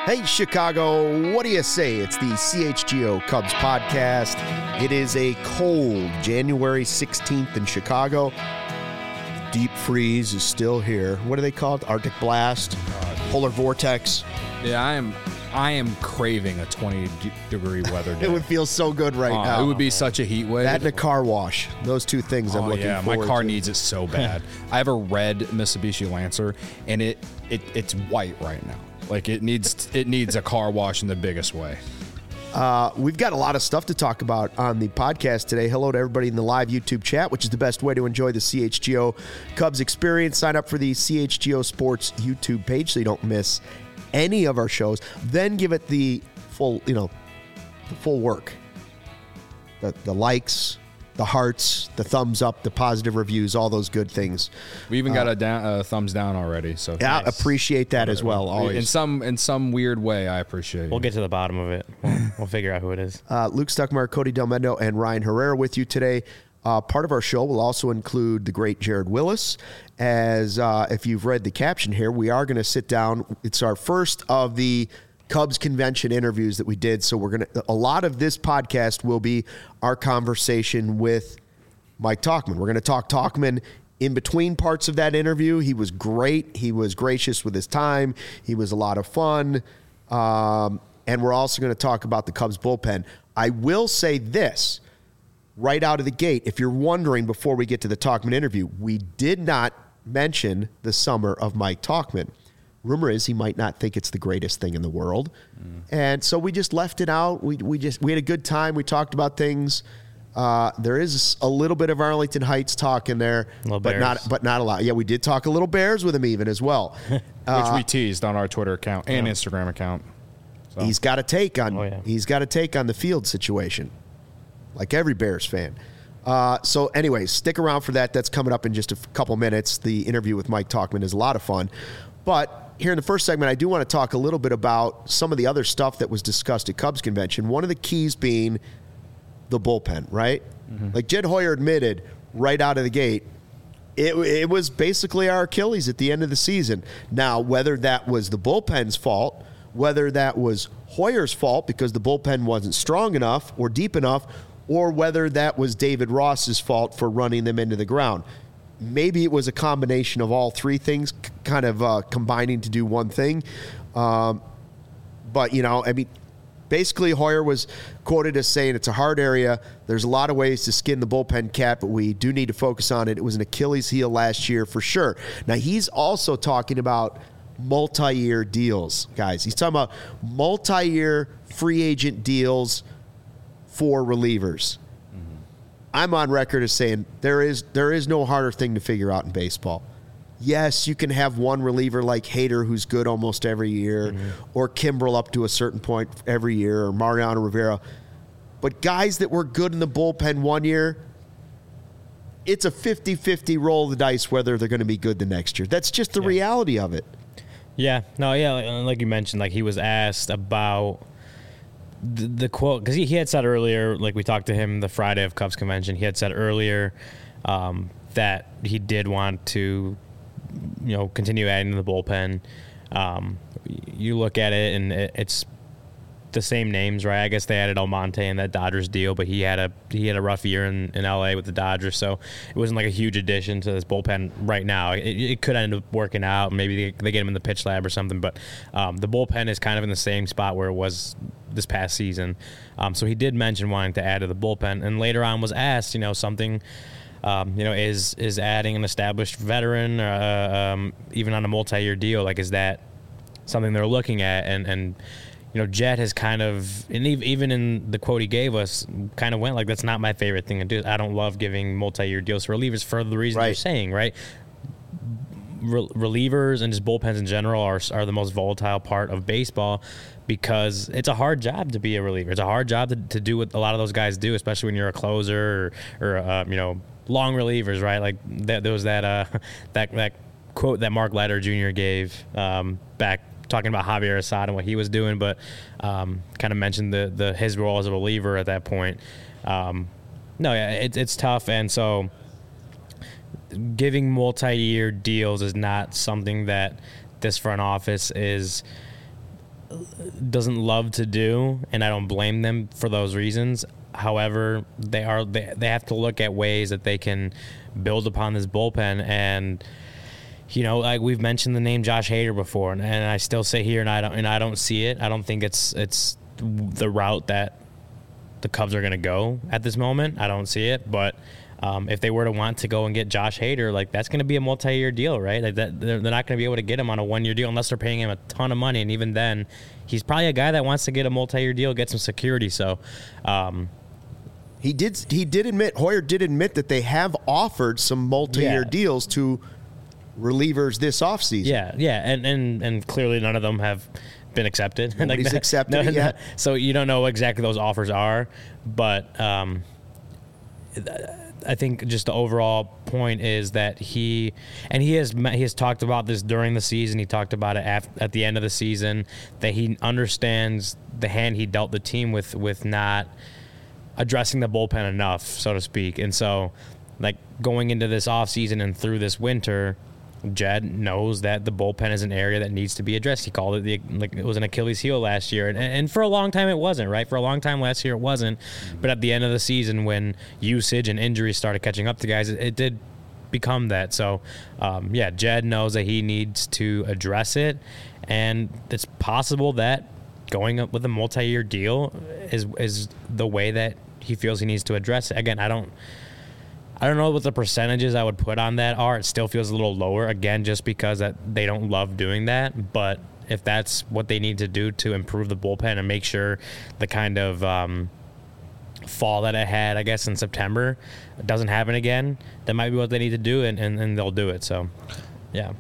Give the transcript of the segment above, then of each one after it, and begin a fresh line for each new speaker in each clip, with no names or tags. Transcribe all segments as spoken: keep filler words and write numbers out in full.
Hey, Chicago, what do you say? It's the C H G O Cubs podcast. It is a cold January sixteenth in Chicago. Deep freeze is still here. What are they called? Arctic blast? Uh, polar vortex?
Yeah, I am I am craving a twenty degree weather day.
It would feel so good right
uh,
now.
It would be such a heat wave.
That and a car wash. Those two things I'm
oh,
looking
yeah,
forward to.
my car needs it so bad. I have a red Mitsubishi Lancer, and it, it it's white right now. Like, it needs it needs a car wash in the biggest way.
Uh, we've got a lot of stuff to talk about on the podcast today. Hello to everybody in the live YouTube chat, which is the best way to enjoy the C H G O Cubs experience. Sign up for the C H G O Sports YouTube page so you don't miss any of our shows. Then give it the full, you know, the full work. The, the likes, the hearts, the thumbs up, the positive reviews, all those good things.
We even got
uh,
a down, uh, thumbs down already. So
yeah,
nice.
Appreciate that as well. Always.
In some in some weird way, I appreciate it.
We'll get to the bottom of it. We'll, we'll figure out who it is.
Uh, Luke Stuckmeyer, Cody Del Mendo, and Ryan Herrera with you today. Uh, part of our show will also include the great Jared Willis. As uh, if you've read the caption here, we are going to sit down. It's our first of the Cubs convention interviews that we did. So we're going to, a lot of this podcast will be our conversation with Mike Tauchman. We're going to talk Tauchman in between parts of that interview. He was great. He was gracious with his time. He was a lot of fun. Um, and we're also going to talk about the Cubs bullpen. I will say this right out of the gate. If you're wondering before we get to the Tauchman interview, we did not mention the summer of Mike Tauchman. Rumor is he might not think it's the greatest thing in the world. Mm. And so we just left it out. We we just we had a good time. We talked about things. Uh, there is a little bit of Arlington Heights talk in there, but
Bears.
not but not a lot. Yeah, we did talk a little Bears with him even as well.
Which
uh,
we teased on our Twitter account and
yeah.
Instagram account. So.
He's got a take on
oh, yeah.
he's got a take on the field situation, like every Bears fan. Uh, so anyways, stick around for that. That's coming up in just a f- couple minutes. The interview with Mike Tauchman is a lot of fun. But here in the first segment, I do want to talk a little bit about some of the other stuff that was discussed at Cubs Convention. One of the keys being the bullpen, right? Mm-hmm. Like Jed Hoyer admitted right out of the gate, it, it was basically our Achilles at the end of the season. Now, whether that was the bullpen's fault, whether that was Hoyer's fault because the bullpen wasn't strong enough or deep enough, or whether that was David Ross's fault for running them into the ground. Maybe it was a combination of all three things c- kind of uh, combining to do one thing. Um, but, you know, I mean, basically Hoyer was quoted as saying it's a hard area. There's a lot of ways to skin the bullpen cat, but we do need to focus on it. It was an Achilles heel last year for sure. Now, he's also talking about multi-year deals, guys. He's talking about multi-year free agent deals for relievers. Mm-hmm. I'm on record as saying there is there is no harder thing to figure out in baseball. Yes, you can have one reliever like Hader who's good almost every year, mm-hmm. or Kimbrel up to a certain point every year, or Mariano Rivera. But guys that were good in the bullpen one year, it's a fifty-fifty roll of the dice whether they're going to be good the next year. That's just the yeah. reality of it.
Yeah, no, yeah, like, like you mentioned, like he was asked about the, the quote, because he, he had said earlier, like we talked to him the Friday of Cubs Convention, he had said earlier um, that he did want to, you know, continue adding to the bullpen. Um, you look at it, and it, it's the same names, right? I guess they added Almonte in that Dodgers deal, but he had a he had a rough year in, in L A with the Dodgers, so it wasn't like a huge addition to this bullpen right now. It, it could end up working out. Maybe they, they get him in the pitch lab or something, but um, the bullpen is kind of in the same spot where it was this past season. Um, so he did mention wanting to add to the bullpen, and later on was asked, you know, something, um, you know, is is adding an established veteran, uh, um, even on a multi-year deal, like is that something they're looking at? And and you know, Jet has kind of, and even in the quote he gave us, kind of went like, that's not my favorite thing to do. I don't love giving multi-year deals for relievers for the reason
right.
you're saying, right? Re- relievers and just bullpens in general are are the most volatile part of baseball because it's a hard job to be a reliever. It's a hard job to, to do what a lot of those guys do, especially when you're a closer or, or uh, you know, long relievers, right? Like that, there was that, uh, that, that quote that Mark Leiter Junior gave um, back talking about Javier Assad and what he was doing, but um, kind of mentioned the the his role as a reliever at that point. Um, no, yeah, it, it's tough, and so giving multi-year deals is not something that this front office is doesn't love to do, and I don't blame them for those reasons. However, they are they, they have to look at ways that they can build upon this bullpen. And you know, like we've mentioned the name Josh Hader before, and, and I still say here, and I don't and I don't see it. I don't think it's it's the route that the Cubs are going to go at this moment. I don't see it, but. Um, if they were to want to go and get Josh Hader, like that's going to be a multi-year deal, right? Like that, they're, they're not going to be able to get him on a one-year deal unless they're paying him a ton of money. And even then, he's probably a guy that wants to get a multi-year deal, get some security. So, um,
he did. He did admit Hoyer did admit that they have offered some multi-year
Yeah.
deals to relievers this offseason.
yeah, yeah, and and and clearly none of them have been accepted.
Nobody's
Like,
accepted it yet.
So you don't know exactly those offers are, but. Um, I think just the overall point is that he and he has he has talked about this during the season. He talked about it at, at the end of the season, that he understands the hand he dealt the team with with not addressing the bullpen enough, so to speak. And so, like going into this offseason and through this winter, Jed knows that the bullpen is an area that needs to be addressed. He called it the like it was an Achilles heel last year, and, and for a long time it wasn't, right? For a long time last year it wasn't, but at the end of the season when usage and injuries started catching up to guys, it, it did become that. So, um, yeah, Jed knows that he needs to address it, and it's possible that going up with a multi-year deal is is the way that he feels he needs to address it. Again, I don't. I don't know what the percentages I would put on that are. It still feels a little lower, again, just because that they don't love doing that. But if that's what they need to do to improve the bullpen and make sure the kind of um, fall that it had, I guess, in September doesn't happen again, that might be what they need to do, and, and, and they'll do it. So, yeah.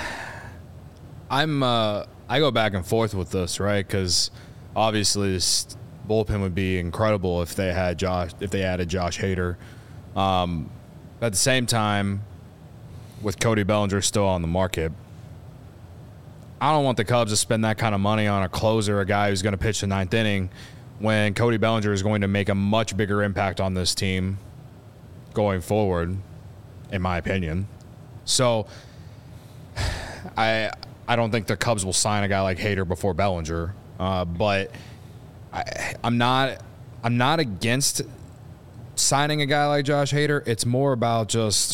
I'm uh, I go back and forth with this, right? Because obviously this bullpen would be incredible if they had Josh, if they added Josh Hader. Um, at the same time, with Cody Bellinger still on the market, I don't want the Cubs to spend that kind of money on a closer, a guy who's going to pitch the ninth inning, when Cody Bellinger is going to make a much bigger impact on this team going forward, in my opinion. So, I I don't think the Cubs will sign a guy like Hader before Bellinger, uh, but I, I'm not I'm not against signing a guy like Josh Hader. It's more about just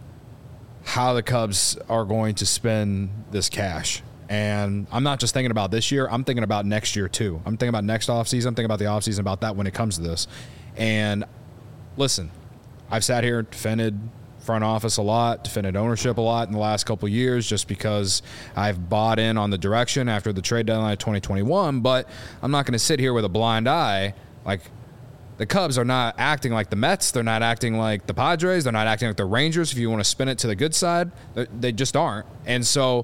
how the Cubs are going to spend this cash. And I'm not just thinking about this year. I'm thinking about next year, too. I'm thinking about next offseason. I'm thinking about the offseason, about that when it comes to this. And listen, I've sat here and defended front office a lot, defended ownership a lot in the last couple of years just because I've bought in on the direction after the trade deadline of twenty twenty-one. But I'm not going to sit here with a blind eye. Like, the Cubs are not acting like the Mets. They're not acting like the Padres. They're not acting like the Rangers. If you want to spin it to the good side, they just aren't. And so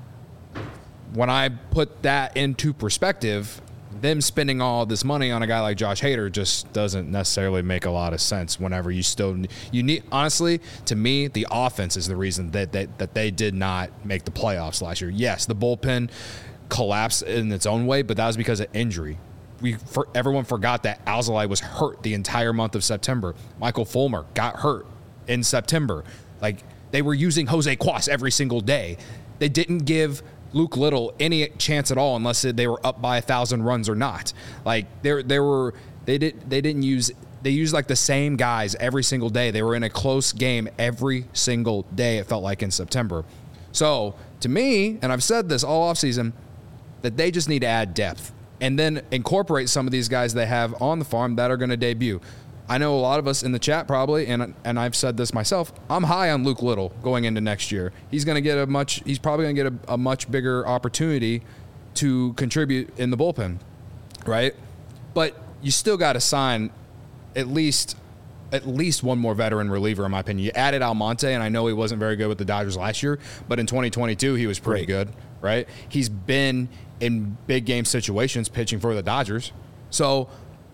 when I put that into perspective, them spending all this money on a guy like Josh Hader just doesn't necessarily make a lot of sense whenever you still you need. Honestly, to me, the offense is the reason that, that, that they did not make the playoffs last year. Yes, the bullpen collapsed in its own way, but that was because of injury. We for, everyone forgot that Alzolay was hurt the entire month of September. Michael Fulmer got hurt in September. Like, they were using Jose Cuas every single day. They didn't give Luke Little any chance at all unless they were up by a thousand runs or not. Like, there there were they did they didn't use they used like the same guys every single day. They were in a close game every single day, it felt like, in September. So to me, and I've said this all offseason, that they just need to add depth and then incorporate some of these guys they have on the farm that are going to debut. I know a lot of us in the chat probably, and and I've said this myself, I'm high on Luke Little going into next year. He's going to get a much, he's probably going to get a, a much bigger opportunity to contribute in the bullpen, right? But you still got to sign at least at least one more veteran reliever, in my opinion. You added Almonte, and I know he wasn't very good with the Dodgers last year, but in twenty twenty-two he was pretty Great. good, right? He's been in big game situations pitching for the Dodgers. So,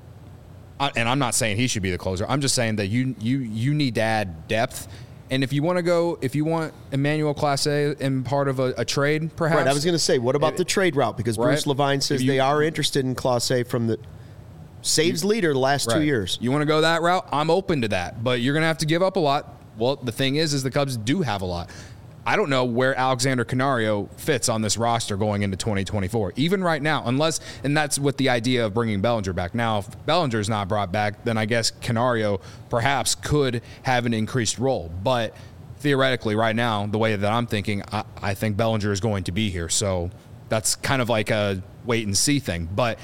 and I'm not saying he should be the closer. I'm just saying that you you you need to add depth. And if you want to go, if you want Emmanuel Clase in part of a, a trade, perhaps.
Right, I was going to say, what about it, the trade route? Because right? Bruce Levine says you, they are interested in Clase from the saves you, leader the last right. two years.
You want to go that route? I'm open to that. But you're going to have to give up a lot. Well, the thing is, is the Cubs do have a lot. I don't know where Alexander Canario fits on this roster going into twenty twenty-four, even right now, unless, and that's with the idea of bringing Bellinger back. Now, if Bellinger's not brought back, then I guess Canario perhaps could have an increased role. But theoretically, right now, the way that I'm thinking, I, I think Bellinger is going to be here. So that's kind of like a wait and see thing. But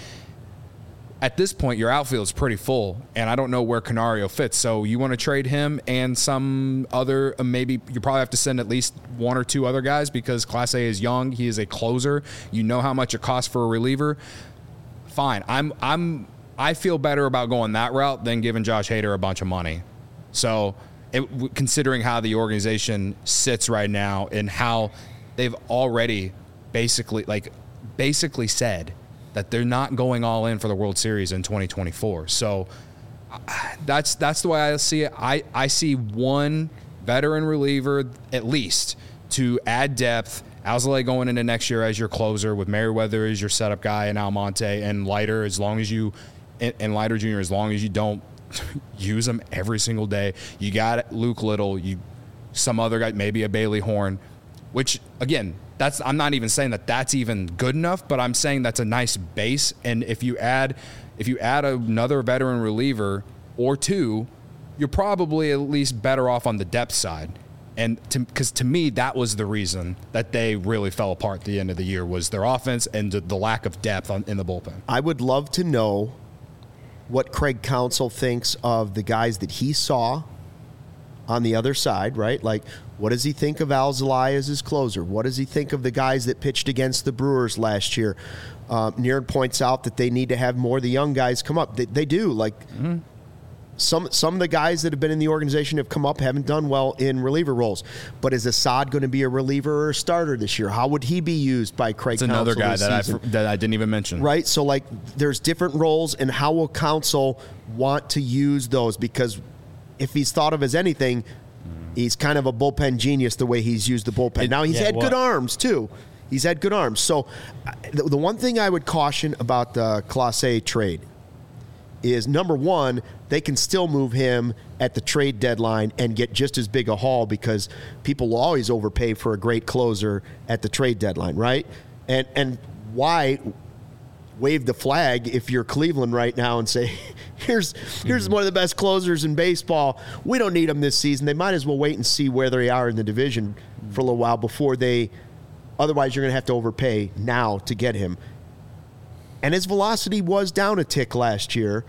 at this point, your outfield is pretty full, and I don't know where Canario fits. So you want to trade him and some other, uh, maybe you probably have to send at least one or two other guys because Class A is young. He is a closer. You know how much it costs for a reliever. Fine. I'm, I'm, I feel better about going that route than giving Josh Hader a bunch of money. So it, considering how the organization sits right now and how they've already basically, like, basically said that they're not going all in for the World Series in twenty twenty-four. So that's that's the way I see it. I, I see one veteran reliever at least to add depth. Alzolay going into next year as your closer with Merriweather as your setup guy and Almonte and Leiter as long as you and, and Leiter Junior as long as you don't use them every single day. You got Luke Little, you some other guy, maybe a Bailey Horn, which again, That's I'm not even saying that that's even good enough, but I'm saying that's a nice base. And if you add, if you add another veteran reliever or two, you're probably at least better off on the depth side. And because to, to me, that was the reason that they really fell apart at the end of the year was their offense and the, the lack of depth on, in the bullpen.
I would love to know what Craig Counsell thinks of the guys that he saw on the other side, right? Like, what does he think of Alzolay as his closer? What does he think of the guys that pitched against the Brewers last year? Uh, Nierd points out that they need to have more of the young guys come up. They, they do. Like, mm-hmm. some some of the guys that have been in the organization have come up, haven't done well in reliever roles. But is Assad going to be a reliever or a starter this year? How would he be used by Craig Counsell?
That's another guy that
season?
I, that I didn't even mention.
Right? So, like, there's different roles, and how will Counsell want to use those? Because if he's thought of as anything, he's kind of a bullpen genius the way he's used the bullpen. Now, he's yeah, had well, good arms, too. He's had good arms. So the, the one thing I would caution about the Class A trade is, number one, they can still move him at the trade deadline and get just as big a haul because people will always overpay for a great closer at the trade deadline, right? And and why wave the flag if you're Cleveland right now and say, here's here's one of the best closers in baseball. We don't need him this season. They might as well wait and see where they are in the division for a little while before they – otherwise you're going to have to overpay now to get him. And his velocity was down a tick last year,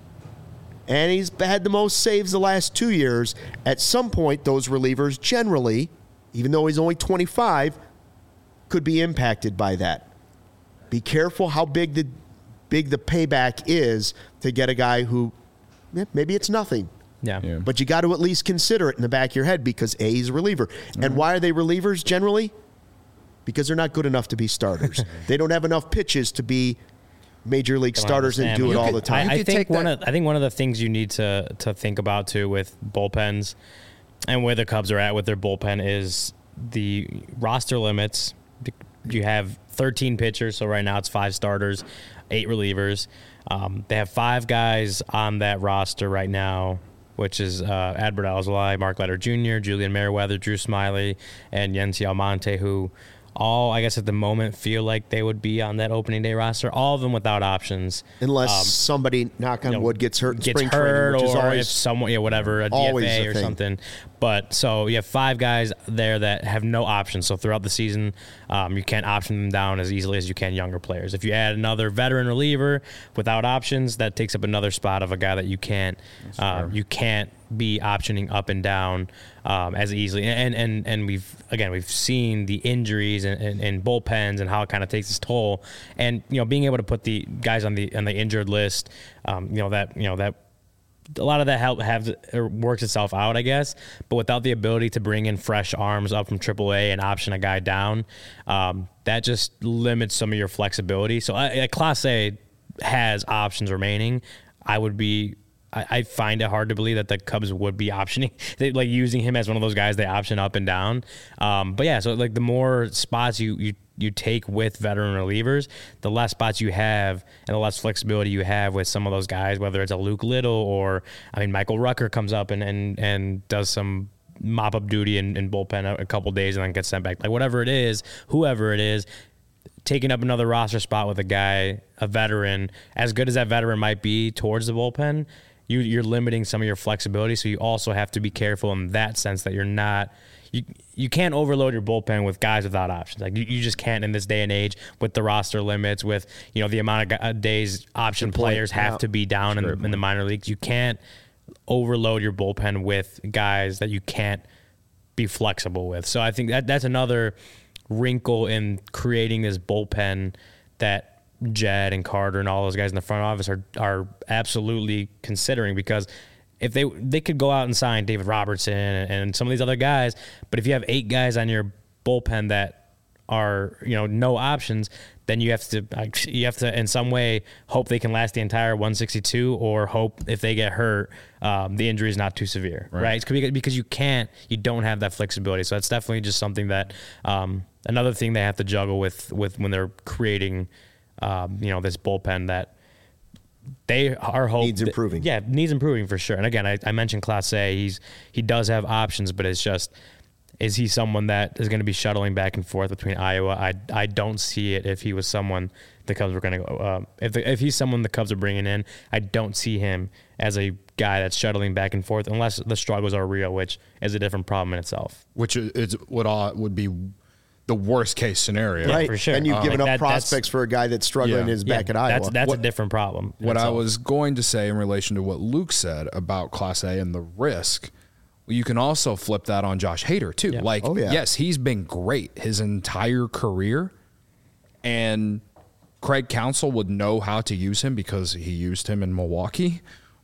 and he's had the most saves the last two years. At some point, those relievers generally, even though he's only twenty-five, could be impacted by that. Be careful how big the big the payback is to get a guy who yeah, maybe it's nothing.
Yeah. yeah.
But you got to at least consider it in the back of your head because A, he's a reliever. Mm-hmm. And why are they relievers generally? Because they're not good enough to be starters. They don't have enough pitches to be major league starters and do it all
could,
the time.
I, I think one of I think one of the things you need to to think about too with bullpens and where the Cubs are at with their bullpen is the roster limits. You have thirteen pitchers, so right now it's five starters, eight relievers. Um, they have five guys on that roster right now, which is uh, Adbert Alzolay, Mark Leiter Junior, Julian Merriweather, Drew Smiley, and Yency Almonte, who all, I guess at the moment, feel like they would be on that opening day roster. All of them without options.
Unless
um,
somebody, knock on you know, wood, gets hurt in
gets
spring
hurt
training, which
or
is always,
if someone, yeah, whatever, a D F A or
thing.
something. But so you have five guys there that have no options. So throughout the season, um, you can't option them down as easily as you can younger players. If you add another veteran reliever without options, that takes up another spot of a guy that you can't, uh, you can't be optioning up and down um, as easily. And and and we've again we've seen the injuries and, and, and bullpens and how it kind of takes its toll. And you know, being able to put the guys on the on the injured list, um, you know that you know that. A lot of that help have works itself out, I guess, but without the ability to bring in fresh arms up from triple A and option a guy down, um, that just limits some of your flexibility. So, I, Class A has options remaining. I would be, I, I find it hard to believe that the Cubs would be optioning, they, like using him as one of those guys they option up and down. Um, but yeah, so like the more spots you you. you take with veteran relievers, the less spots you have and the less flexibility you have with some of those guys, whether it's a Luke Little or, I mean, Michael Rucker comes up and, and, and does some mop up duty in, in bullpen a, a couple days and then get sent back. Like whatever it is, whoever it is, taking up another roster spot with a guy, a veteran, as good as that veteran might be towards the bullpen, you, you're limiting some of your flexibility. So you also have to be careful in that sense that you're not, you you can't overload your bullpen with guys without options. Like you, you just can't in this day and age with the roster limits, with, you know, the amount of days option players have yeah. to be down in the, in the minor leagues. You can't overload your bullpen with guys that you can't be flexible with. So I think that that's another wrinkle in creating this bullpen that Jed and Carter and all those guys in the front office are are absolutely considering, because if they they could go out and sign David Robertson and, and some of these other guys, but if you have eight guys on your bullpen that are, you know, no options, then you have to you have to in some way hope they can last the entire one sixty-two, or hope if they get hurt, um, the injury is not too severe, right? right? It's because you can't, you don't have that flexibility. So that's definitely just something that um, another thing they have to juggle with with when they're creating, um, you know, this bullpen that they are hoping
needs improving.
That, yeah, needs improving for sure. And again, I, I mentioned Clase. He's he does have options, but it's just, is he someone that is going to be shuttling back and forth between Iowa? I, I don't see it. If he was someone the Cubs were going to go, uh, if the, if he's someone the Cubs are bringing in, I don't see him as a guy that's shuttling back and forth unless the struggles are real, which is a different problem in itself.
Which is what all would be the worst case scenario,
right?
Yeah, for sure.
And you've
um,
given
like
up
that,
prospects for a guy that's struggling
yeah.
is back
yeah,
at Iowa.
That's that's
what,
a different problem.
What
itself.
I was going to say in relation to what Luke said about Clase and the risk, you can also flip that on Josh Hader too.
Yeah.
Like,
oh, yeah.
yes, he's been great his entire career, and Craig Counsell would know how to use him because he used him in Milwaukee,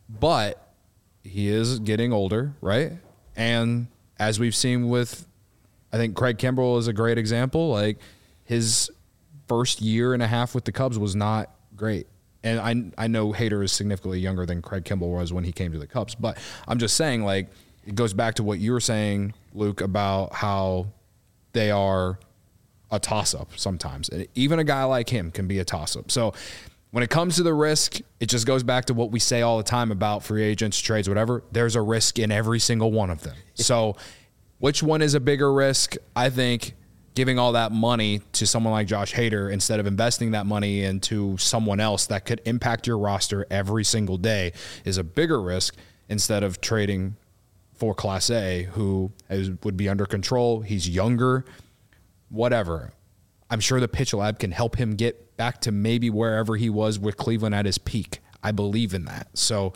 but he is getting older, right? And as we've seen with, I think Craig Kimbrell is a great example. Like, his first year and a half with the Cubs was not great. And I I know Hader is significantly younger than Craig Kimbrell was when he came to the Cubs, but I'm just saying, like, it goes back to what you were saying, Luke, about how they are a toss-up sometimes. And even a guy like him can be a toss-up. So when it comes to the risk, it just goes back to what we say all the time about free agents, trades, whatever. There's a risk in every single one of them. So which one is a bigger risk? I think giving all that money to someone like Josh Hader instead of investing that money into someone else that could impact your roster every single day is a bigger risk, instead of trading for Clase, who is, would be under control. He's younger, whatever. I'm sure the pitch lab can help him get back to maybe wherever he was with Cleveland at his peak. I believe in that. So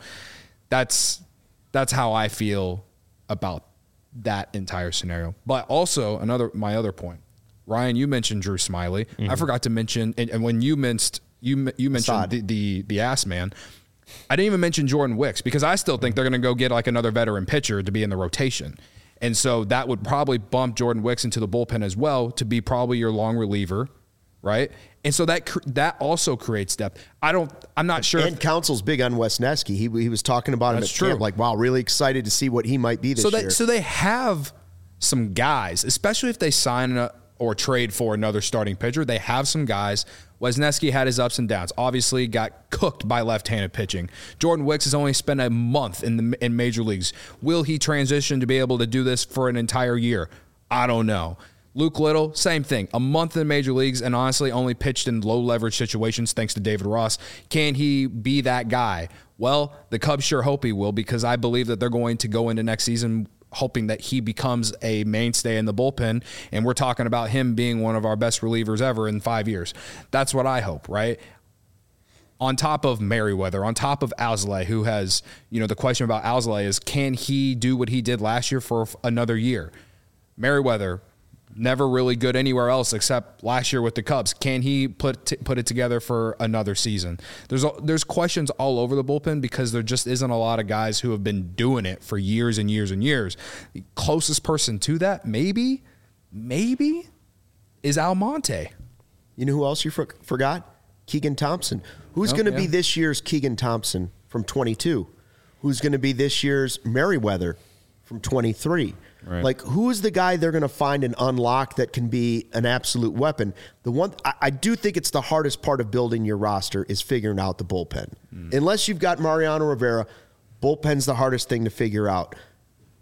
that's that's how I feel about that entire scenario. But also another my other point, Ryan, you mentioned Drew Smyly. Mm-hmm. I forgot to mention, and, and when you mentioned you you mentioned the, the the ass man, I didn't even mention Jordan Wicks, because I still think they're going to go get like another veteran pitcher to be in the rotation. And so that would probably bump Jordan Wicks into the bullpen as well to be probably your long reliever, right? And so that that also creates depth. I don't, I'm not sure.
And if, Counsell's big on Wesneski. He he was talking about him at
true.
camp, like, wow, really excited to see what he might be this
so they,
year.
So they have some guys, especially if they sign a, or trade for another starting pitcher. They have some guys. Wesneski had his ups and downs. Obviously got cooked by left-handed pitching. Jordan Wicks has only spent a month in the in major leagues. Will he transition to be able to do this for an entire year? I don't know. Luke Little, same thing. A month in major leagues and honestly only pitched in low-leverage situations thanks to David Ross. Can he be that guy? Well, the Cubs sure hope he will, because I believe that they're going to go into next season hoping that he becomes a mainstay in the bullpen, and we're talking about him being one of our best relievers ever in five years. That's what I hope, right? On top of Merriweather, on top of Alzolay, who has, you know, the question about Alzolay is, can he do what he did last year for another year? Merriweather, never really good anywhere else except last year with the Cubs. Can he put t- put it together for another season? There's a, there's questions all over the bullpen, because there just isn't a lot of guys who have been doing it for years and years and years. The closest person to that, maybe, maybe, is Almonte.
You know who else you for- forgot? Keegan Thompson. Who's oh, going to yeah. be this year's Keegan Thompson from twenty-two? Who's going to be this year's Merriweather from twenty-three? Right. Like, who is the guy they're going to find and unlock that can be an absolute weapon? The one I, I do think it's the hardest part of building your roster is figuring out the bullpen. Mm. Unless you've got Mariano Rivera, bullpen's the hardest thing to figure out.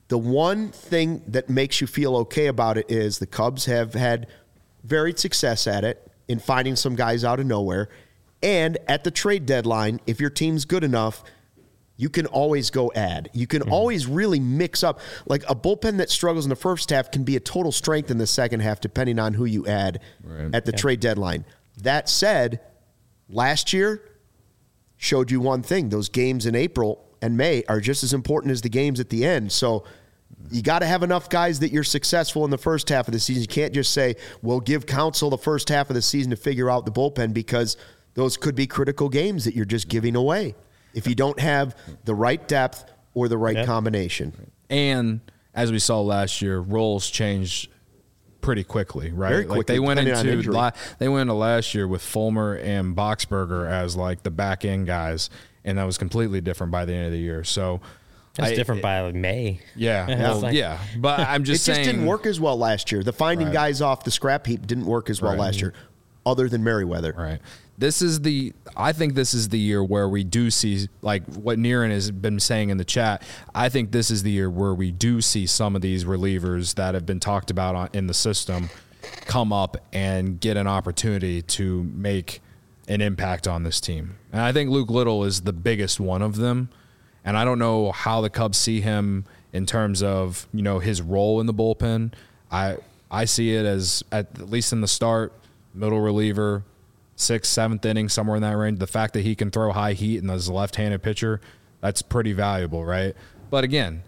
The one thing that makes you feel okay about it is the Cubs have had varied success at it in finding some guys out of nowhere. And at the trade deadline, if your team's good enough, you can always go add. You can mm-hmm. always really mix up. Like a bullpen that struggles in the first half can be a total strength in the second half, depending on who you add right. at the yeah. trade deadline. That said, last year showed you one thing. Those games in April and May are just as important as the games at the end. So you got to have enough guys that you're successful in the first half of the season. You can't just say, well, give Counsell the first half of the season to figure out the bullpen, because those could be critical games that you're just giving away if you don't have the right depth or the right yeah. combination.
And as we saw last year, roles changed pretty quickly, right?
Very quickly,
like they went into la- they went into last year with Fulmer and Boxberger as like the back end guys, and that was completely different by the end of the year. So
it's
I,
different
it,
by like May.
Yeah, well,
like,
yeah. But I'm just
it
saying,
just didn't work as well last year. The finding
right.
guys off the scrap heap didn't work as well
right.
last year, other than Merriweather.
Right. This is the. I think this is the year where we do see, like what Niren has been saying in the chat. I think this is the year where we do see some of these relievers that have been talked about on, in the system come up and get an opportunity to make an impact on this team. And I think Luke Little is the biggest one of them. And I don't know how the Cubs see him in terms of, you know, his role in the bullpen. I I see it as, at least in the start, middle reliever, sixth, seventh inning, somewhere in that range. The fact that he can throw high heat and is a left-handed pitcher, that's pretty valuable, right? But again,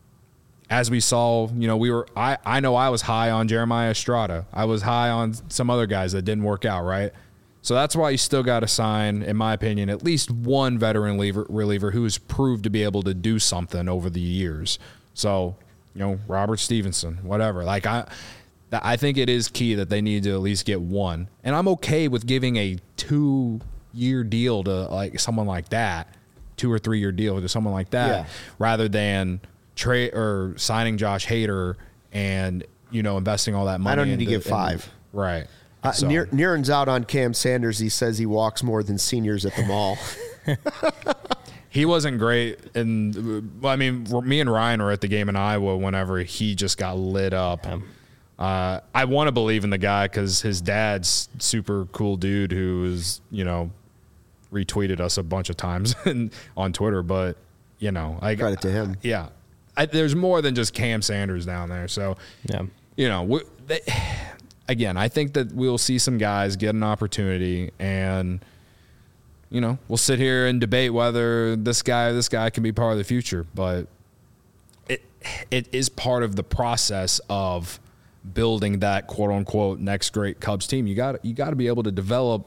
as we saw, you know, we were I, I know I was high on Jeremiah Estrada. I was high on some other guys that didn't work out, right? So that's why you still got to sign, in my opinion, at least one veteran reliever, reliever who has proved to be able to do something over the years. So, you know, Robert Stevenson, whatever. Like, I I think it is key that they need to at least get one. And I'm okay with giving a two-year deal to, like, someone like that, two- or three-year deal to someone like that, yeah. rather than trade or signing Josh Hader and, you know, investing all that money.
I don't need
into,
to give five.
Into, right.
Uh,
so.
Niren's out on Cam Sanders. He says he walks more than seniors at the mall.
He wasn't great. And, well, I mean, me and Ryan were at the game in Iowa whenever he just got lit up. Um, uh, I want to believe in the guy because his dad's super cool dude who is, you know, retweeted us a bunch of times on Twitter. But, you know, I
credit to him.
Yeah. I, there's more than just Cam Sanders down there. So,
yeah.
you know, we, they, again, I think that we'll see some guys get an opportunity, and, you know, we'll sit here and debate whether this guy or this guy can be part of the future. But it it is part of the process of building that quote unquote next great Cubs team. You got you got to be able to develop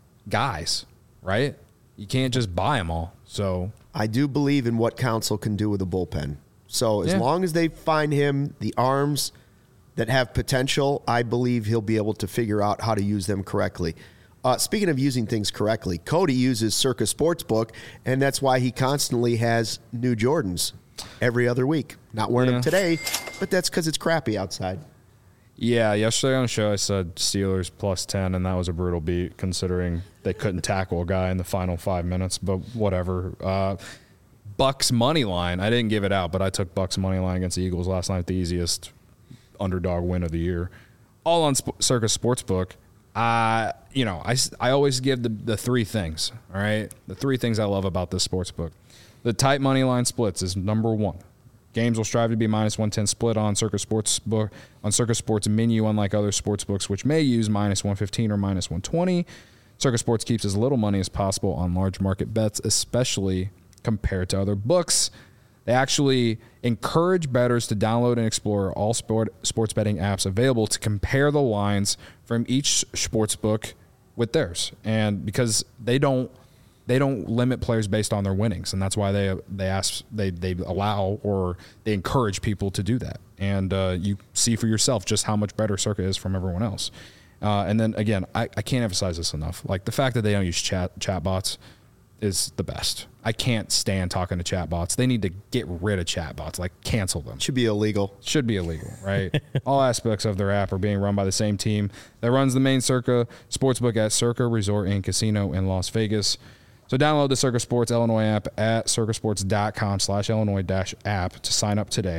guys, right? You can't just buy them all. So
I do believe in what Counsell can do with a bullpen. So as
yeah.
long as they find him the arms that have potential, I believe he'll be able to figure out how to use them correctly. Uh, speaking of using things correctly, Cody uses Circa Sportsbook, and that's why he constantly has new Jordans every other week. Not wearing yeah. them today, but that's because it's crappy outside.
Yeah, yesterday on the show I said Steelers plus ten, and that was a brutal beat considering they couldn't tackle a guy in the final five minutes, but whatever. Uh, Bucks money line, I didn't give it out, but I took Bucks money line against the Eagles last night, the easiest underdog win of the year. All on Sp- Circa Sportsbook. Uh, you know, I, I always give the, the three things, all right? The three things I love about this sportsbook. The tight money line splits is number one. Games will strive to be minus one ten split on Circa Sportsbook, on Circa Sports menu, unlike other sportsbooks, which may use minus one fifteen or minus one twenty. Circa Sports keeps as little money as possible on large market bets, especially compared to other books. They actually encourage bettors to download and explore all sport, sports betting apps available to compare the lines from each sports book with theirs. And because they don't they don't limit players based on their winnings, and that's why they they ask they they allow or they encourage people to do that. And uh, you see for yourself just how much better Circa is from everyone else. Uh, and then again, I, I can't emphasize this enough. Like the fact that they don't use chat chat bots is the best. I can't stand talking to chatbots. They need to get rid of chatbots, like cancel them.
Should be illegal.
Should be illegal, right? All aspects of their app are being run by the same team that runs the main Circa Sportsbook at Circa Resort and Casino in Las Vegas. So download the Circa Sports Illinois app at circasports.com slash Illinois dash app to sign up today.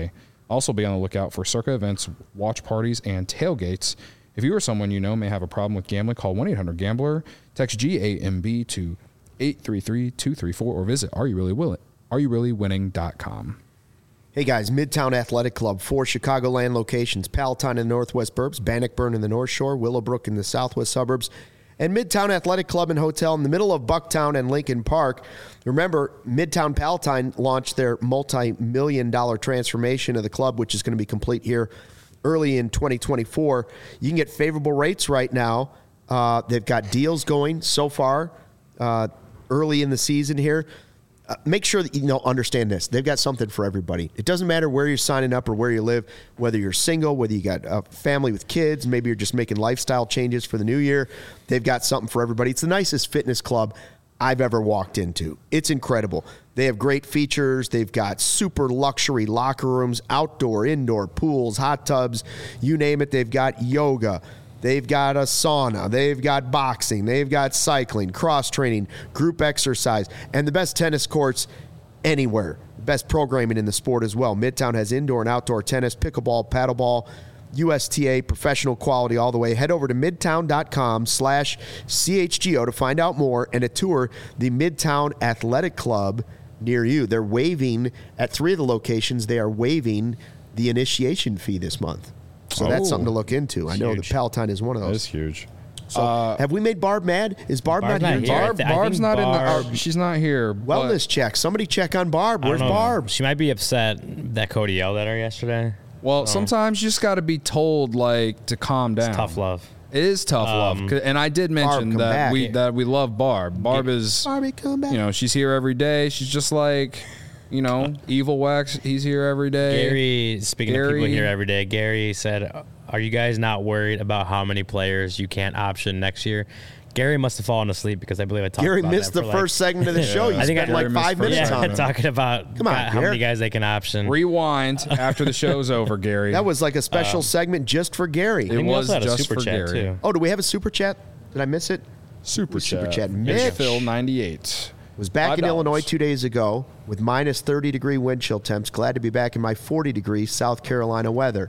Also, be on the lookout for Circa events, watch parties, and tailgates. If you or someone you know may have a problem with gambling, call one eight hundred gambler, text G A M B to eight three three two three four, or visit are you really will are you really winning dot com.
Hey guys, Midtown Athletic Club, four Chicagoland locations, Palatine in the Northwest Burbs, Bannockburn in the North Shore, Willowbrook in the Southwest Suburbs, and Midtown Athletic Club and Hotel in the middle of Bucktown and Lincoln Park. Remember, Midtown Palatine launched their multi-million dollar transformation of the club, which is going to be complete here early in twenty twenty-four. You can get favorable rates right now. Uh, they've got deals going so far uh, early in the season here. Uh, make sure that you know understand this. They've got something for everybody. It doesn't matter where you're signing up or where you live, whether you're single, whether you got a family with kids, maybe you're just making lifestyle changes for the new year. They've got something for everybody. It's the nicest fitness club I've ever walked into. It's incredible. They have great features. They've got super luxury locker rooms, outdoor, indoor pools, hot tubs, you name it. They've got yoga. They've got a sauna. They've got boxing. They've got cycling, cross-training, group exercise, and the best tennis courts anywhere. Best programming in the sport as well. Midtown has indoor and outdoor tennis, pickleball, paddleball, U S T A, professional quality all the way. Head over to midtown.com slash CHGO to find out more and to tour the Midtown Athletic Club near you. They're waiving, at three of the locations, they are waiving the initiation fee this month. So
Oh.
that's something to look into. I know
Huge.
the Palatine is one of
That
those.
is huge.
So
Uh,
have we made Barb mad? Is Barb
Barb's
not
not
here?
here. I
Barb,
th- I
Barb's
think
not in
Barb-
the. Uh, she's not here. but-
Wellness check. Somebody check on Barb.
I
Where's
don't know.
Barb?
She might be upset that Cody yelled at her yesterday.
Well, sometimes you just got to be told like to calm down.
It's tough love.
It is tough love,
Um,
'Cause- and I did mention
come
that
back.
we that we love Barb. Barb is,
Barbie, come back.
you know, she's here every day. She's just like, you know, Evil Wax. He's here every day.
Gary, speaking of people
Gary-
here every day, Gary said, "Are you guys not worried about how many players you can't option next year?" Gary must have fallen asleep because I believe I talked
Gary
about
missed
that
the
for
first segment of the show. You
I think
spent
I-
like
Gary missed
five
first
minutes
yeah,
on it.
talking about
Come on,
how
Gary.
many guys they can option.
Rewind after the show's over, Gary.
That was like a special segment just for Gary.
It
I think we
was
also had a
just
super
for
chat
Gary.
too.
Oh, do we have a super chat? Did I miss it?
super
Super
chat.
chat.
Mitch
Mitch.
Phil ninety-eight.
Was back
Five
in
dollars.
Illinois two days ago with minus thirty degree wind chill temps. Glad to be back in my forty degree South Carolina weather.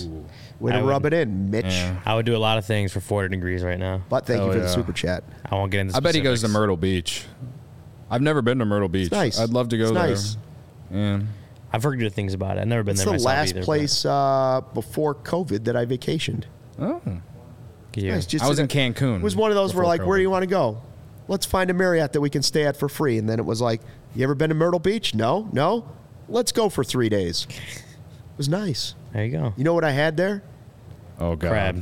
Way to
I
rub
would-
it in, Mitch.
Yeah.
I would do a lot of things for forty degrees right now.
But thank
Hell
you for the
yeah.
super chat.
I won't get into.
I bet he goes to
specifics.
Myrtle Beach. I've never been to Myrtle Beach.
nice.
I'd love to go
It's
there.
nice.
Yeah.
I've heard good things about it. I've never been
It's
there
the
myself
last
either, but
place uh, before COVID that I vacationed.
Oh.
good year.
Nice, just
I was in
a-
Cancun.
It was one of those where
before
like, where do
COVID.
you want to go? Let's find a Marriott that we can stay at for free. And then it was like, you ever been to Myrtle Beach? No, no. Let's go for three days. It was nice.
There you go.
You know what I had there?
Oh God.
Crab.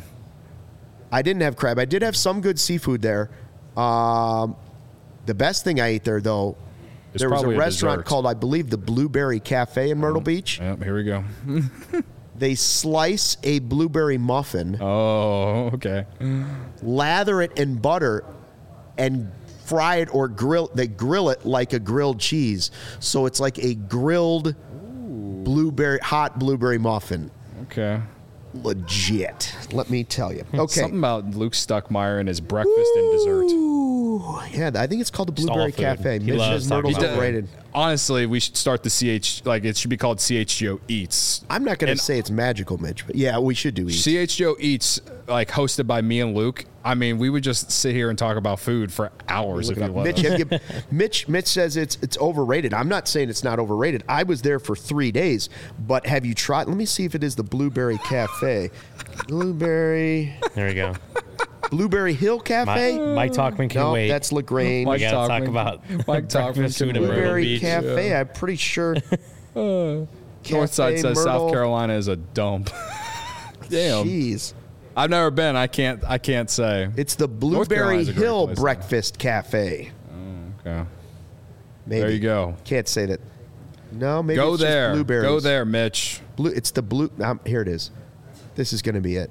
I didn't have crab. I did have some good seafood there. Um, the best thing I ate there, though,
It's
there was a
probably a
restaurant
dessert.
called, I believe, the Blueberry Cafe in Myrtle Beach.
Yep, here we go.
They slice a blueberry muffin,
Oh, okay.
lather it in butter, and fry it or grill. They grill it like a grilled cheese, so it's like a grilled blueberry, hot blueberry muffin.
Okay.
Legit, let me tell you. Okay.
Something about Luke Stuckmeyer and his breakfast and dessert.
Ooh, yeah, I think it's called the
Just all
Blueberry
food.
Cafe.
He
Mitch
loves
says Myrtle's
talking about
overrated.
Honestly, we should start the C H like it should be called C H G O Eats.
I'm not going to
And-
say it's magical, Mitch, but yeah, we should do eat.
C H G O Eats, like hosted by me and Luke. I mean, we would just sit here and talk about food for hours
Look
if
it
we
up.
let
Mitch,
us.
have you- Mitch, Mitch says it's it's overrated. I'm not saying it's not overrated. I was there for three days, but have you tried? Let me see if it is the Blueberry Cafe. Blueberry,
There we go.
Blueberry Hill
Mike,
Cafe.
Mike Talkman can
no,
wait.
that's Lagrange.
we
Mike
gotta talk
Talkman-
about
Mike Talkman
breakfast
can
food in
wait.
Myrtle
Blueberry
Beach.
Cafe.
yeah.
I'm pretty sure.
Northside
Cafe
says South
Myrtle.
Carolina is a dump. Damn.
Jeez.
I've never been. I can't. I can't say.
It's the
Carolina's
Blueberry
a great
Hill
place, though.
Breakfast Cafe.
Okay.
Maybe.
There you go.
Can't say that. No, maybe
Go
it's just
there.
blueberries.
Go there, Mitch.
Blue, it's the blue. Um, here it is. This is going to be it.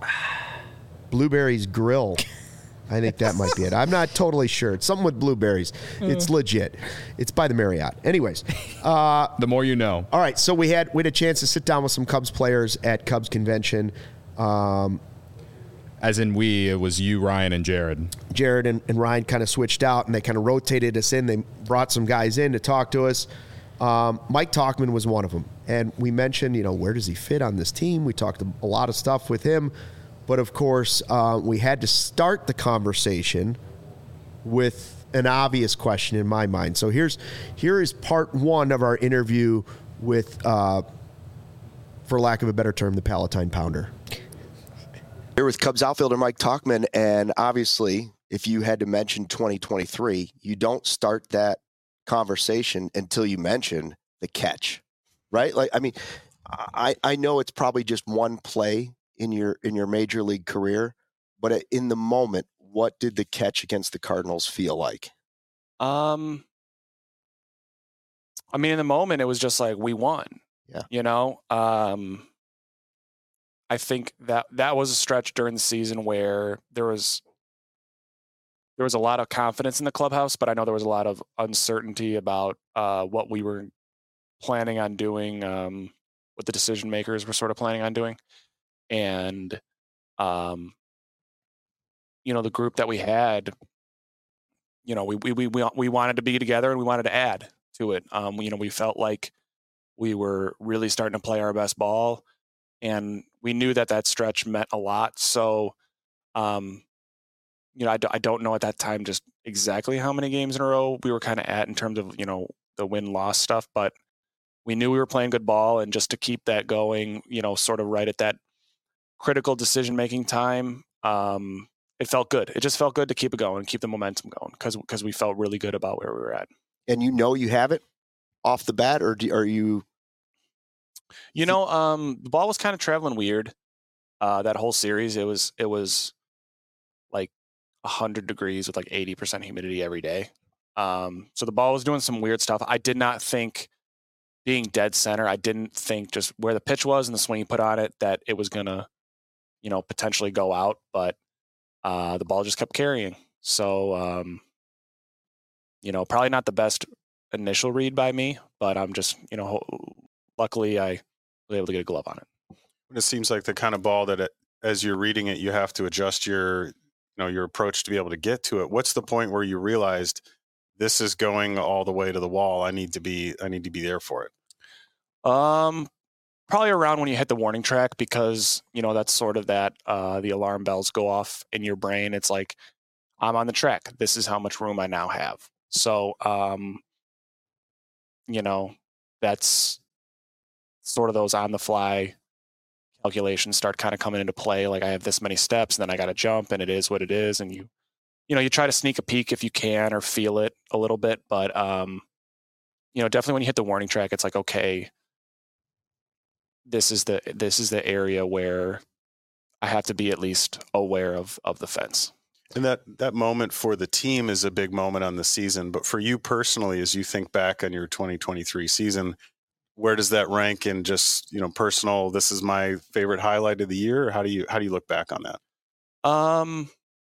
Blueberries Grill. I think that might be it. I'm not totally sure. It's something with blueberries. It's legit. It's by the Marriott. Anyways, uh,
The more you know.
all right. So we had we had a chance to sit down with some Cubs players at Cubs convention. Um,
As in we, it was you, Ryan, and Jared.
Jared and, and Ryan kind of switched out, and they kind of rotated us in. They brought some guys in to talk to us. Um, Mike Tauchman was one of them. And we mentioned, you know, where does he fit on this team? We talked a lot of stuff with him. But, of course, uh, we had to start the conversation with an obvious question in my mind. So here's here is part one of our interview with, uh, for lack of a better term, the Palatine Pounder.
Here with Cubs outfielder Mike Tauchman, and obviously, if you had to mention twenty twenty-three, you don't start that conversation until you mention the catch, right? Like, I mean, I, I know it's probably just one play in your in your major league career, but in the moment, what did the catch against the Cardinals feel like?
Um, I mean, in the moment, it was just like we won.
Yeah,
you know. Um, I think that that was a stretch during the season where there was there was a lot of confidence in the clubhouse, but I know there was a lot of uncertainty about uh, what we were planning on doing, um, what the decision makers were sort of planning on doing, and um, you know, the group that we had, you know, we we we we wanted to be together and we wanted to add to it. Um, you know, we felt like we were really starting to play our best ball. And we knew that that stretch meant a lot. So, um, you know, I, d- I don't know at that time just exactly how many games in a row we were kind of at in terms of, you know, the win-loss stuff. But we knew we were playing good ball. And just to keep that going, you know, sort of right at that critical decision-making time, um, it felt good. It just felt good to keep it going, keep the momentum going, because because we felt really good about where we were at.
And you know you have it off the bat, or do, are you...
You know, um, the ball was kind of traveling weird. Uh, that whole series, it was it was like one hundred degrees with like eighty percent humidity every day. Um, so the ball was doing some weird stuff. I did not think, being dead center, I didn't think just where the pitch was and the swing he put on it, that it was going to, you know, potentially go out. But uh, the ball just kept carrying. So, um, you know, probably not the best initial read by me, but I'm just, you know, luckily I was able to get a glove on it.
It seems like the kind of ball that it, as you're reading it, you have to adjust your, you know, your approach to be able to get to it. What's the point where you realized this is going all the way to the wall? I need to be, I need to be there for it.
Um, probably around when you hit the warning track, because, you know, that's sort of that, uh, the alarm bells go off in your brain. It's like, I'm on the track. This is how much room I now have. So, um, you know, that's sort of those on the fly calculations start kind of coming into play. Like, I have this many steps and then I got to jump, and it is what it is. And you, you know, you try to sneak a peek if you can, or feel it a little bit. But, um, you know, definitely when you hit the warning track, it's like, okay, this is the, this is the area where I have to be at least aware of, of the fence.
And that, that moment for the team is a big moment on the season. But for you personally, as you think back on your twenty twenty-three season, where does that rank in just, you know, personal, this is my favorite highlight of the year? Or how do you, how do you look back on that?
Um,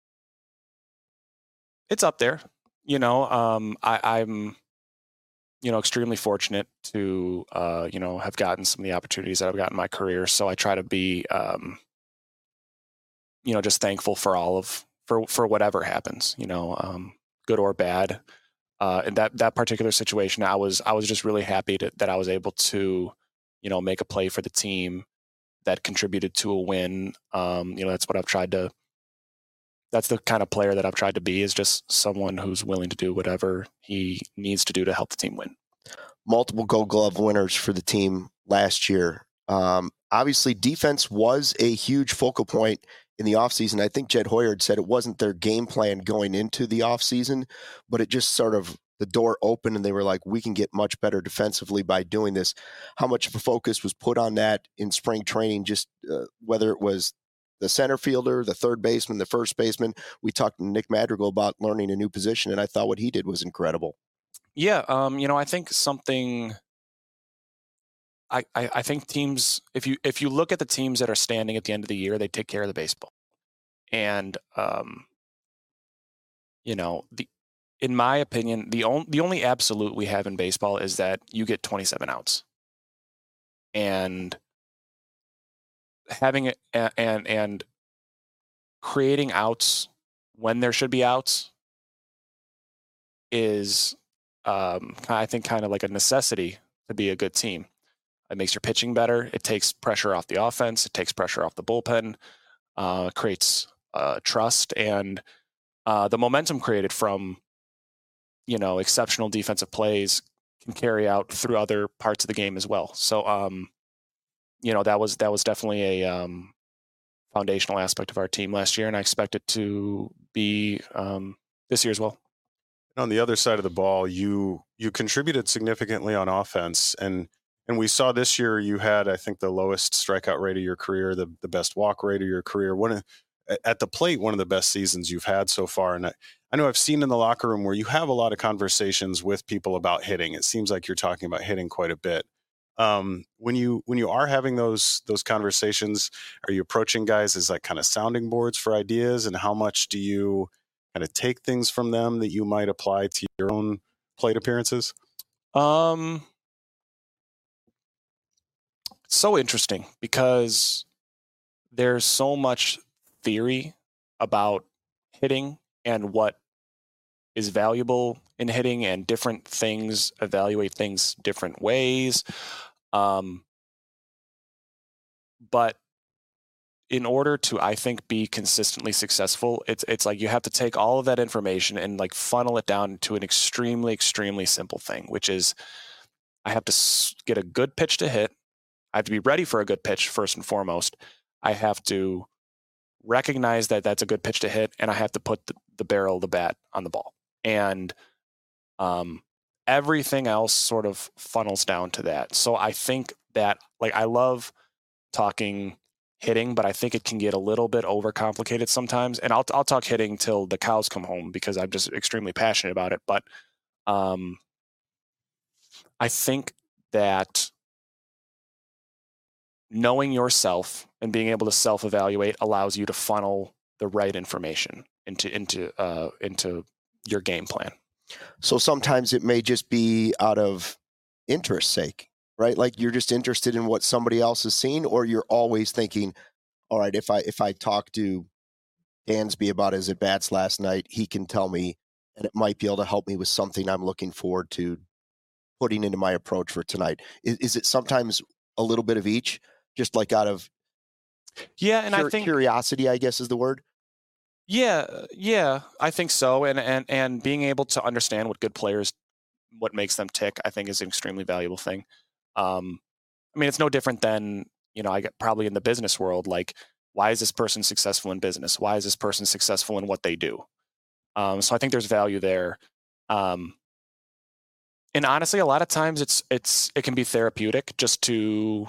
it's up there, you know. um, I, I'm, you know, extremely fortunate to, uh, you know, have gotten some of the opportunities that I've gotten in my career. So I try to be, um, you know, just thankful for all of, for, for whatever happens, you know, um, good or bad. Uh, in that, that particular situation, I was, I was just really happy to, that I was able to, you know, make a play for the team that contributed to a win. Um, you know, that's what I've tried to, that's the kind of player that I've tried to be, is just someone who's willing to do whatever he needs to do to help the team win.
Multiple Gold Glove winners for the team last year. Um, obviously, defense was a huge focal point in the offseason. I think Jed Hoyer said it wasn't their game plan going into the offseason, but it just sort of, the door opened and they were like, we can get much better defensively by doing this. How much of a focus was put on that in spring training, just uh, whether it was the center fielder, the third baseman, the first baseman? We talked to Nick Madrigal about learning a new position, and I thought what he did was incredible.
Yeah. Um, you know, I think something, I, I, I think teams, if you, if you look at the teams that are standing at the end of the year, they take care of the baseball. And, um, you know, the, in my opinion, the only, the only absolute we have in baseball is that you get twenty-seven outs, and having it and, and creating outs when there should be outs is, um, I think, kind of like a necessity to be a good team. It makes your pitching better. It takes pressure off the offense. It takes pressure off the bullpen. Uh, creates uh, trust and uh, the momentum created from, you know, exceptional defensive plays can carry out through other parts of the game as well. So, um, you know, that was that was definitely a um, foundational aspect of our team last year, and I expect it to be um, this year as well.
On the other side of the ball, you you contributed significantly on offense, and and we saw this year you had, I think, the lowest strikeout rate of your career, the the best walk rate of your career. One of, at the plate, one of the best seasons you've had so far. And I, I know I've seen in the locker room where you have a lot of conversations with people about hitting. It seems like you're talking about hitting quite a bit. Um, when you when you are having those those conversations, are you approaching guys as like kind of sounding boards for ideas? And how much do you kind of take things from them that you might apply to your own plate appearances?
Um, it's so interesting because there's so much theory about hitting and what is valuable in hitting, and different things evaluate things different ways. Um, but in order to, I think, be consistently successful, it's it's like you have to take all of that information and like funnel it down to an extremely, extremely simple thing, which is I have to get a good pitch to hit. I have to be ready for a good pitch first and foremost. I have to recognize that that's a good pitch to hit, and I have to put the, the barrel of the bat on the ball. And um, everything else sort of funnels down to that. So I think that, like, I love talking hitting, but I think it can get a little bit overcomplicated sometimes. And I'll I'll talk hitting till the cows come home because I'm just extremely passionate about it. But um, I think that knowing yourself and being able to self-evaluate allows you to funnel the right information into into uh, into your game plan.
So sometimes it may just be out of interest sake, right? Like you're just interested in what somebody else has seen, or you're always thinking, all right, if I if I talk to Dansby about his at-bats last night, he can tell me, and it might be able to help me with something I'm looking forward to putting into my approach for tonight. Is, is it sometimes a little bit of each, just like out of
yeah, and
cur-
I think
curiosity, I guess is the word?
Yeah, yeah, I think so. And, and, and being able to understand what good players, what makes them tick, I think is an extremely valuable thing. Um, I mean, it's no different than, you know, I get probably in the business world, like, why is this person successful in business? Why is this person successful in what they do? Um, so I think there's value there. Um, and honestly, a lot of times it's, it's, it can be therapeutic just to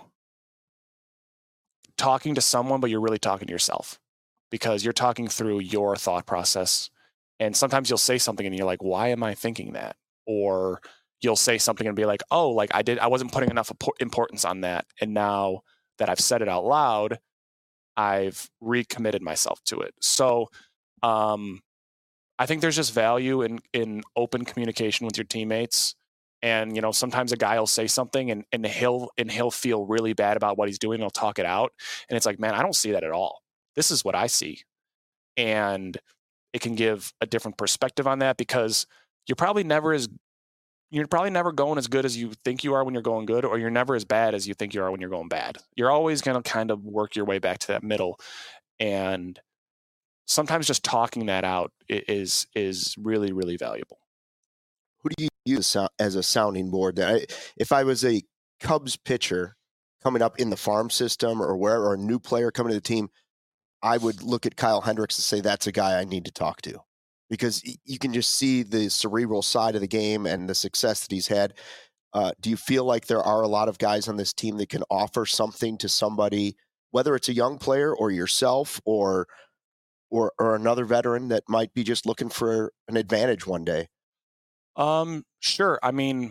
talking to someone, but you're really talking to yourself, because you're talking through your thought process. And sometimes you'll say something and you're like, why am I thinking that? Or you'll say something and be like, oh, like I did, I wasn't putting enough importance on that. And now that I've said it out loud, I've recommitted myself to it. So um, I think there's just value in, in open communication with your teammates. And, you know, sometimes a guy will say something and, and he'll, and he'll feel really bad about what he's doing. And he'll talk it out. And it's like, man, I don't see that at all. This is what I see. And it can give a different perspective on that, because you're probably never as, you're probably never going as good as you think you are when you're going good, or you're never as bad as you think you are when you're going bad. You're always going to kind of work your way back to that middle. And sometimes just talking that out is, is really, really valuable.
Who do you use as a sounding board? If I was a Cubs pitcher coming up in the farm system or wherever, or a new player coming to the team, I would look at Kyle Hendricks and say, that's a guy I need to talk to, because you can just see the cerebral side of the game and the success that he's had. Uh, do you feel like there are a lot of guys on this team that can offer something to somebody, whether it's a young player or yourself or, or, or another veteran that might be just looking for an advantage one day?
Um, sure. I mean,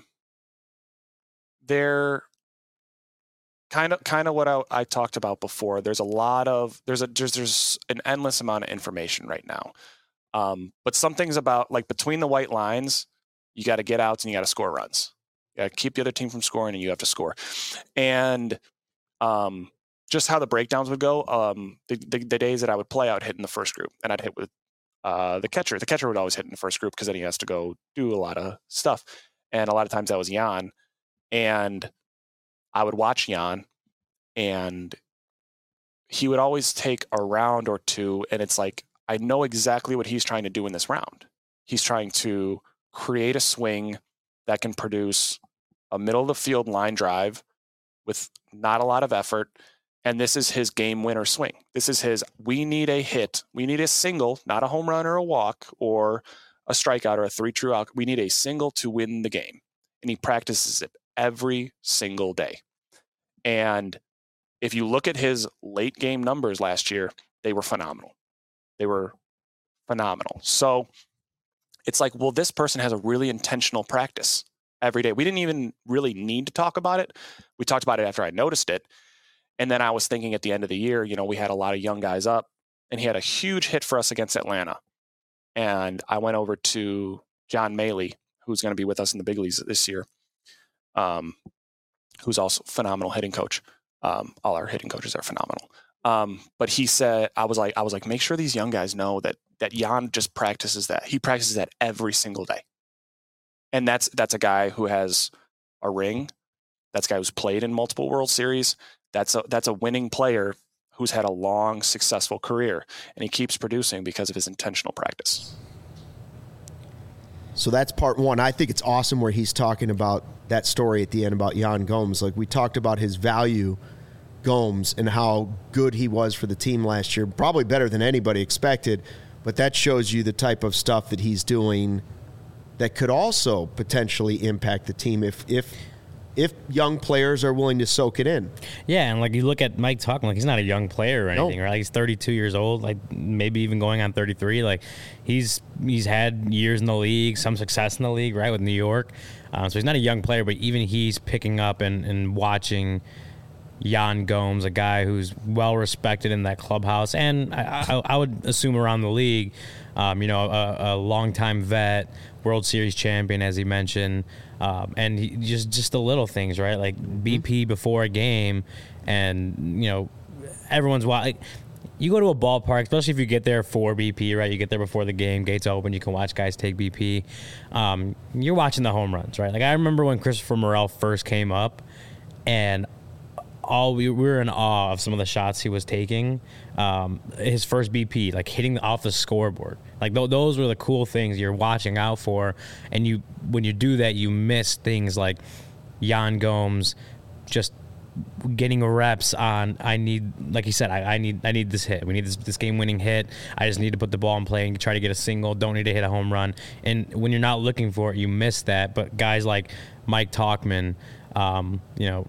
they're kind of, kind of what I, I talked about before. There's a lot of, there's a, there's, there's an endless amount of information right now. Um, but some things about, like, between the white lines, you got to get outs and you got to score runs. You got to keep the other team from scoring, and you have to score. And um, just how the breakdowns would go, um, the, the, the days that I would play, I would hit in the first group, and I'd hit with uh, the catcher. The catcher would always hit in the first group because then he has to go do a lot of stuff. And a lot of times that was Jan. And I would watch Jan, and he would always take a round or two, and it's like, I know exactly what he's trying to do in this round. He's trying to create a swing that can produce a middle of the field line drive with not a lot of effort. And this is his game winner swing. This is his, we need a hit. We need a single, not a home run or a walk or a strikeout or a three true out. We need a single to win the game. And he practices it every single day. And if you look at his late game numbers last year, they were phenomenal. They were phenomenal. So it's like, well, this person has a really intentional practice every day. We didn't even really need to talk about it. We talked about it after I noticed it. And then I was thinking at the end of the year, you know, we had a lot of young guys up, and he had a huge hit for us against Atlanta. And I went over to John Maley, who's going to be with us in the big leagues this year, um, who's also a phenomenal hitting coach. Um, all our hitting coaches are phenomenal. Um, but he said, I was like, I was like, make sure these young guys know that that Jan just practices that. He practices that every single day. And that's that's a guy who has a ring. That's a guy who's played in multiple World Series. That's a that's a winning player who's had a long, successful career, and he keeps producing because of his intentional practice.
So that's part one. I think it's awesome where he's talking about that story at the end about Yan Gomes. Like, we talked about his value, Gomes, and how good he was for the team last year. Probably better than anybody expected, but that shows you the type of stuff that he's doing that could also potentially impact the team if if if young players are willing to soak it in.
Yeah, and like you look at Mike Tauchman, like he's not a young player or anything,
No.
right? He's thirty-two years old, like maybe even going on thirty-three. Like he's he's had years in the league, some success in the league, right, with New York. Um, so he's not a young player, but even he's picking up and, and watching Yan Gomes, a guy who's well respected in that clubhouse, and I, I, I would assume around the league. Um, you know, a, a longtime vet, World Series champion, as he mentioned, um, and he, just just the little things, right? Like B P before a game, and you know, everyone's like, you go to a ballpark, especially if you get there for B P, right? You get there before the game, gates open, you can watch guys take B P. Um, you're watching the home runs, right? Like I remember when Christopher Morel first came up, and all we, we were in awe of some of the shots he was taking. Um, his first B P, like hitting off the scoreboard, like th- those were the cool things you're watching out for. And you, when you do that, you miss things like Yan Gomes just getting reps on. I need, like he said, I, I need, I need this hit. We need this, this game-winning hit. I just need to put the ball in play and try to get a single. Don't need to hit a home run. And when you're not looking for it, you miss that. But guys like Mike Tauchman, um, you know.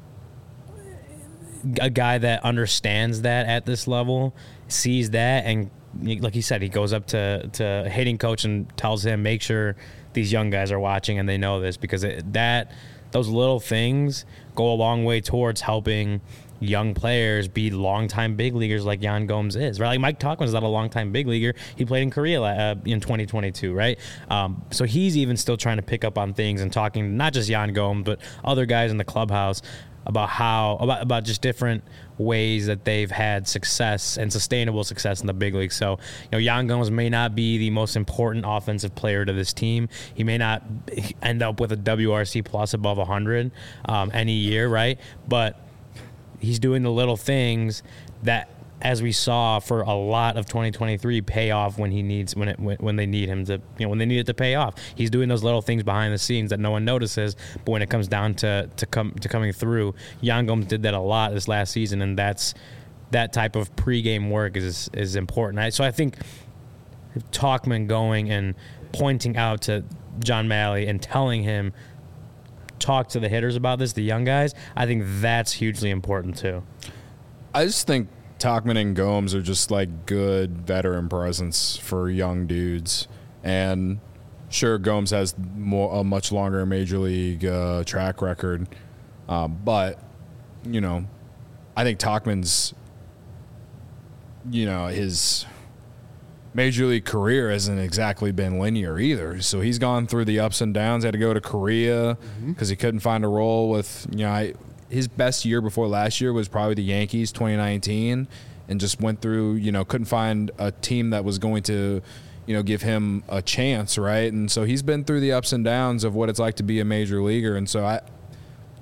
A guy that understands that at this level, sees that, and like he said, he goes up to to hitting coach and tells him, make sure these young guys are watching and they know this, because it, that those little things go a long way towards helping young players be longtime big leaguers like Yan Gomes is, right? Like Mike Tauchman's not a longtime big leaguer. He played in Korea uh, in twenty twenty-two, right? Um, so he's even still trying to pick up on things and talking not just Yan Gomes, but other guys in the clubhouse about how about about just different ways that they've had success and sustainable success in the big league. So, you know, Yan Gomes may not be the most important offensive player to this team. He may not end up with a W R C plus above one hundred um, any year, right? But he's doing the little things that, as we saw for a lot of twenty twenty-three, pay off when he needs when it when, when they need him to, you know, when they need it to pay off. He's doing those little things behind the scenes that no one notices, but when it comes down to to come to coming through, Yan Gomes did that a lot this last season, and that's that type of pregame work is is important. I, so I think Tauchman going and pointing out to John Maley and telling him, talk to the hitters about this, the young guys, I think that's hugely important too.
I just think Tauchman and Gomes are just like good veteran presence for young dudes. And sure, Gomes has more, a much longer major league uh, track record. Uh, but, you know, I think Tauchman's, you know, his major league career hasn't exactly been linear either. So he's gone through the ups and downs. Had to go to Korea because mm-hmm. he couldn't find a role with, you know, I, his best year before last year was probably the Yankees, twenty nineteen, and just went through, you know, couldn't find a team that was going to, you know, give him a chance, right? And so he's been through the ups and downs of what it's like to be a major leaguer. And so I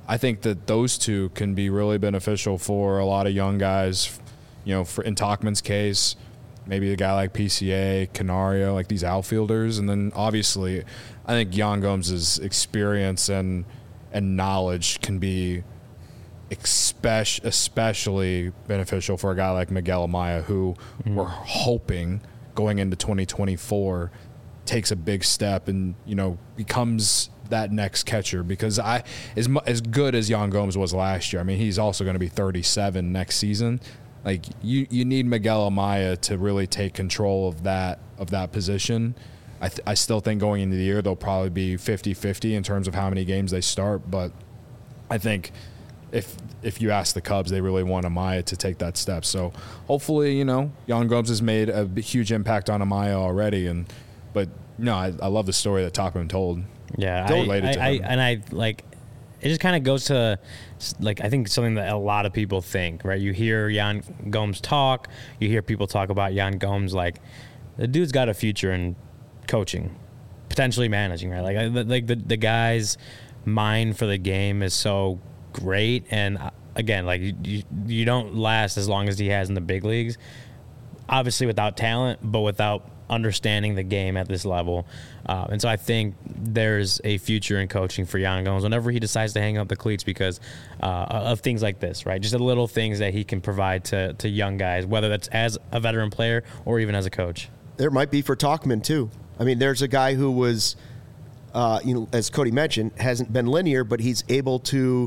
I think that those two can be really beneficial for a lot of young guys. You know, for, in Tauchman's case, maybe a guy like P C A, Canario, like these outfielders. And then obviously I think Yan Gomes' experience and and knowledge can be especially, especially beneficial for a guy like Miguel Amaya, who mm-hmm. we're hoping going into twenty twenty-four takes a big step and, you know, becomes that next catcher. Because I as as good as Yan Gomes was last year, I mean, he's also going to be thirty-seven next season. Like you, you need Miguel Amaya to really take control of that of that position. I th- I still think going into the year they'll probably be fifty-fifty in terms of how many games they start, but I think if if you ask the Cubs, they really want Amaya to take that step. So hopefully, you know, Yan Gomes has made a huge impact on Amaya already, and but no, I, I love the story that Tauchman told.
Yeah, I,
related
I,
to
I,
him.
and I like. It just kind of goes to, like, I think something that a lot of people think, right? You hear Yan Gomes talk, you hear people talk about Yan Gomes, like, the dude's got a future in coaching, potentially managing, right? Like, like the, the guy's mind for the game is so great. And, again, like, you, you don't last as long as he has in the big leagues, obviously without talent, but without understanding the game at this level. Uh, and so I think there's a future in coaching for Yan Gomes whenever he decides to hang up the cleats because uh, of things like this, right? Just the little things that he can provide to, to young guys, whether that's as a veteran player or even as a coach.
There might be for Tauchman, too. I mean, there's a guy who was, uh, you know, as Cody mentioned, hasn't been linear, but he's able to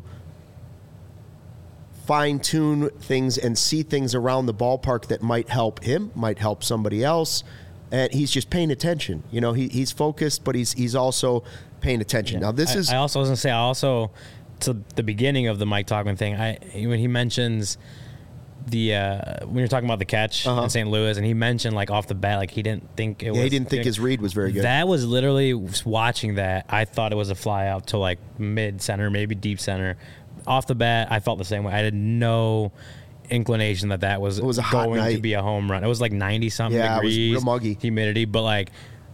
fine-tune things and see things around the ballpark that might help him, might help somebody else. And he's just paying attention. You know, he, he's focused, but he's he's also paying attention. Yeah. Now, this
I,
is...
I also was going to say, I also, to the beginning of the Mike Tauchman thing, I when he mentions the, uh, when you're talking about the catch uh-huh. in Saint Louis, and he mentioned, like, off the bat, like, he didn't think it
yeah,
was...
he didn't think
you know,
his read was very good.
That was literally, watching that, I thought it was a fly out to, like, mid-center, maybe deep center. Off the bat, I felt the same way. I had no inclination that that was,
it was a
going
hot night.
to be a home run. It was like ninety something
yeah,
degrees,
it was real muggy
humidity, but like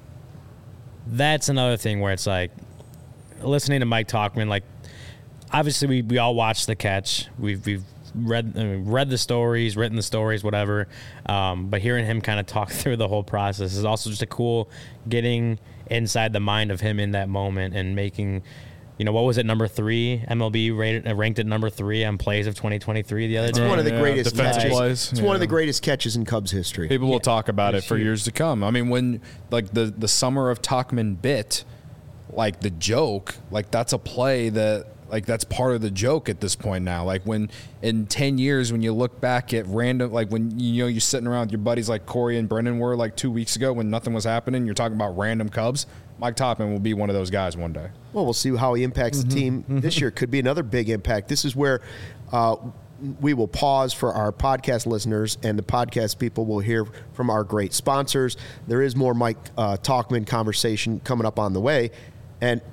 that's another thing where it's like listening to Mike Tauchman. Like obviously we, we all watched the catch. We've we've read I mean, read the stories, written the stories, whatever. Um, but hearing him kind of talk through the whole process is also just a cool getting inside the mind of him in that moment and making. You know, what was it, number three? M L B rated, uh, ranked at number three on plays of twenty twenty-three the other
it's
day.
One of the
yeah,
greatest catches.
Plays.
It's
yeah.
one of the greatest catches in Cubs history.
People will
yeah.
talk about
It's
it for
huge.
years to come. I mean, when, like, the, the summer of Tauchman bit, like, the joke, like, that's a play that, like, that's part of the joke at this point now. Like, when in ten years, when you look back at random, like, when, you know, you're sitting around with your buddies like Corey and Brendan were, like, two weeks ago when nothing was happening, you're talking about random Cubs. Mike Tauchman will be one of those guys one day.
Well, we'll see how he impacts
Mm-hmm.
the team this year. Could be another big impact. This is where uh, we will pause for our podcast listeners, and the podcast people will hear from our great sponsors. There is more Mike uh, Tauchman conversation coming up on the way. And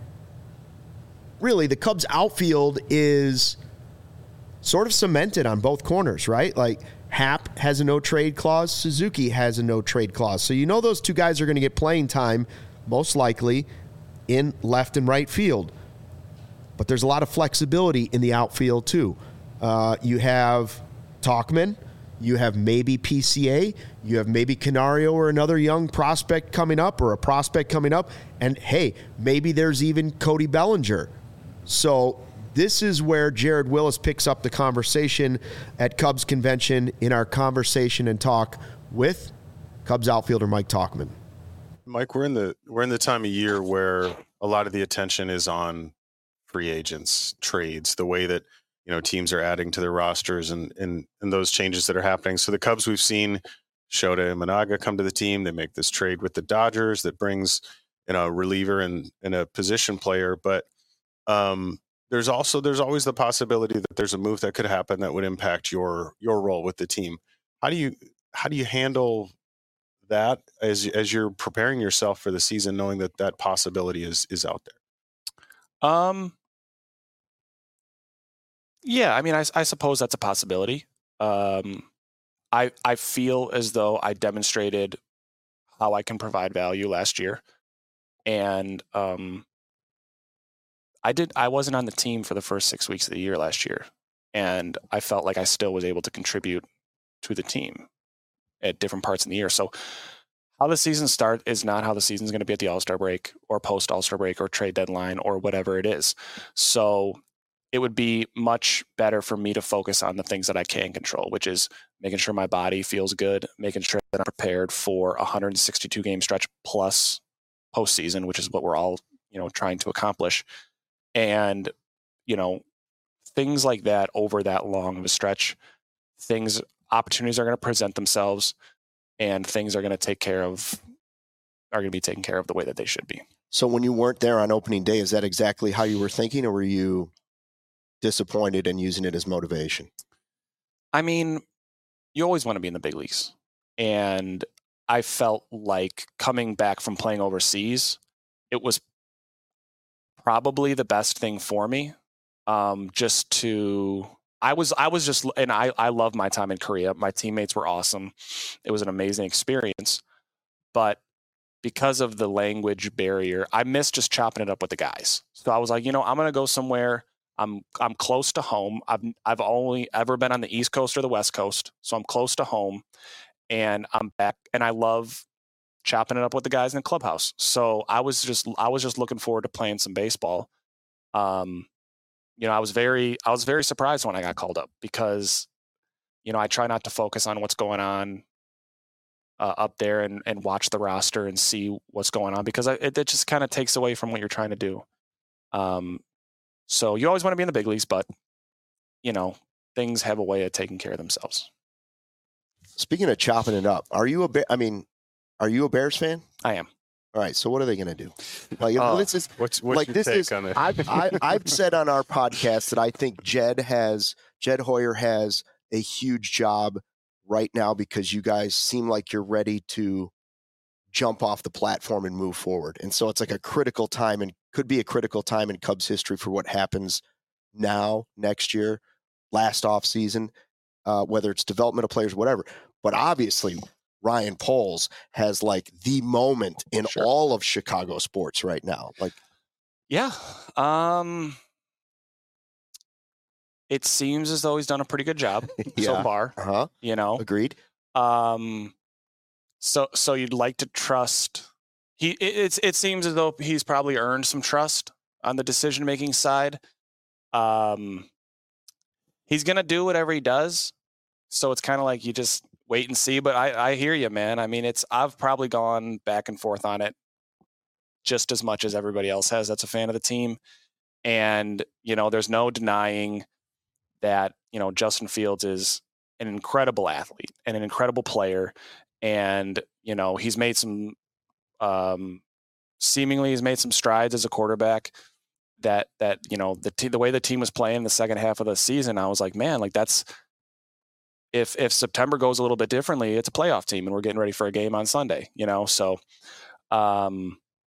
really, the Cubs outfield is sort of cemented on both corners, right? Like, Happ has a no-trade clause. Suzuki has a no-trade clause. So you know those two guys are going to get playing time most likely in left and right field. But there's a lot of flexibility in the outfield, too. Uh, you have Tauchman. You have maybe P C A. You have maybe Canario or another young prospect coming up or a prospect coming up. And, hey, maybe there's even Cody Bellinger. So this is where Jared Willis picks up the conversation at Cubs Convention in our conversation and talk with Cubs outfielder Mike Tauchman.
Mike, we're in the we're in the time of year where a lot of the attention is on free agents, trades, the way that, you know, teams are adding to their rosters and and, and those changes that are happening. So the Cubs, we've seen Shota Imanaga come to the team. They make this trade with the Dodgers that brings, you know, a reliever and, and a position player. But um, there's also there's always the possibility that there's a move that could happen that would impact your your role with the team. How do you how do you handle that as as you're preparing yourself for the season, knowing that that possibility is is out there?
Um. Yeah, I mean, I, I suppose that's a possibility. Um, I I feel as though I demonstrated how I can provide value last year, and um, I did. I wasn't on the team for the first six weeks of the year last year, and I felt like I still was able to contribute to the team at different parts in the year. So how the season starts is not how the season's going to be at the All-Star break or post All-Star break or trade deadline or whatever it is. So it would be much better for me to focus on the things that I can control, which is making sure my body feels good, making sure that I'm prepared for a one hundred sixty-two game stretch plus postseason, which is what we're all, you know, trying to accomplish. And, you know, things like that over that long of a stretch, things, opportunities are going to present themselves, and things are going to take care of, are going to be taken care of the way that they should be.
So when you weren't there on opening day, is that exactly how you were thinking, or were you disappointed and using it as motivation?
I mean, you always want to be in the big leagues. And I felt like coming back from playing overseas, it was probably the best thing for me. Um, just to, I was, I was just, and I, I love my time in Korea. My teammates were awesome. It was an amazing experience, but because of the language barrier, I missed just chopping it up with the guys. So I was like, you know, I'm going to go somewhere. I'm, I'm close to home. I've, I've only ever been on the East Coast or the West Coast. So I'm close to home, and I'm back, and I love chopping it up with the guys in the clubhouse. So I was just, I was just looking forward to playing some baseball. Um, you know, I was very, I was very surprised when I got called up, because, you know, I try not to focus on what's going on uh, up there and, and watch the roster and see what's going on, because I, it, it just kind of takes away from what you're trying to do. Um, so you always want to be in the big leagues, but, you know, things have a way of taking care of themselves.
Speaking of chopping it up, are you a Bear, I mean, are you a Bears fan?
I am.
All right. So what are they going to do? Like,
Oh,
this is
What's, what's
like
your
this
take
is.
on it?
I've I, I've said on our podcast that I think Jed has Jed Hoyer has a huge job right now, because you guys seem like you're ready to jump off the platform and move forward. And so it's like a critical time, and could be a critical time in Cubs history for what happens now, next year, last off season, uh, whether it's development of players, whatever. But obviously, Ryan Poles has like the moment in
Sure.
all of Chicago sports right now. Like,
Yeah. Um, it seems as though he's done a pretty good job so
Yeah.
far,
uh huh,
you know?
agreed.
Um, so, so you'd like to trust he, it, it's, it seems as though he's probably earned some trust on the decision-making side. Um, he's going to do whatever he does. So it's kind of like you just wait and see, but I, I hear you, man. I mean, it's, I've probably gone back and forth on it just as much as everybody else has that's a fan of the team. And, you know, there's no denying that, you know, Justin Fields is an incredible athlete and an incredible player. And, you know, he's made some, um, seemingly he's made some strides as a quarterback that, that, you know, the te- the way the team was playing the second half of the season, I was like, man, like that's, if, if September goes a little bit differently, it's a playoff team and we're getting ready for a game on Sunday, you know? So, um,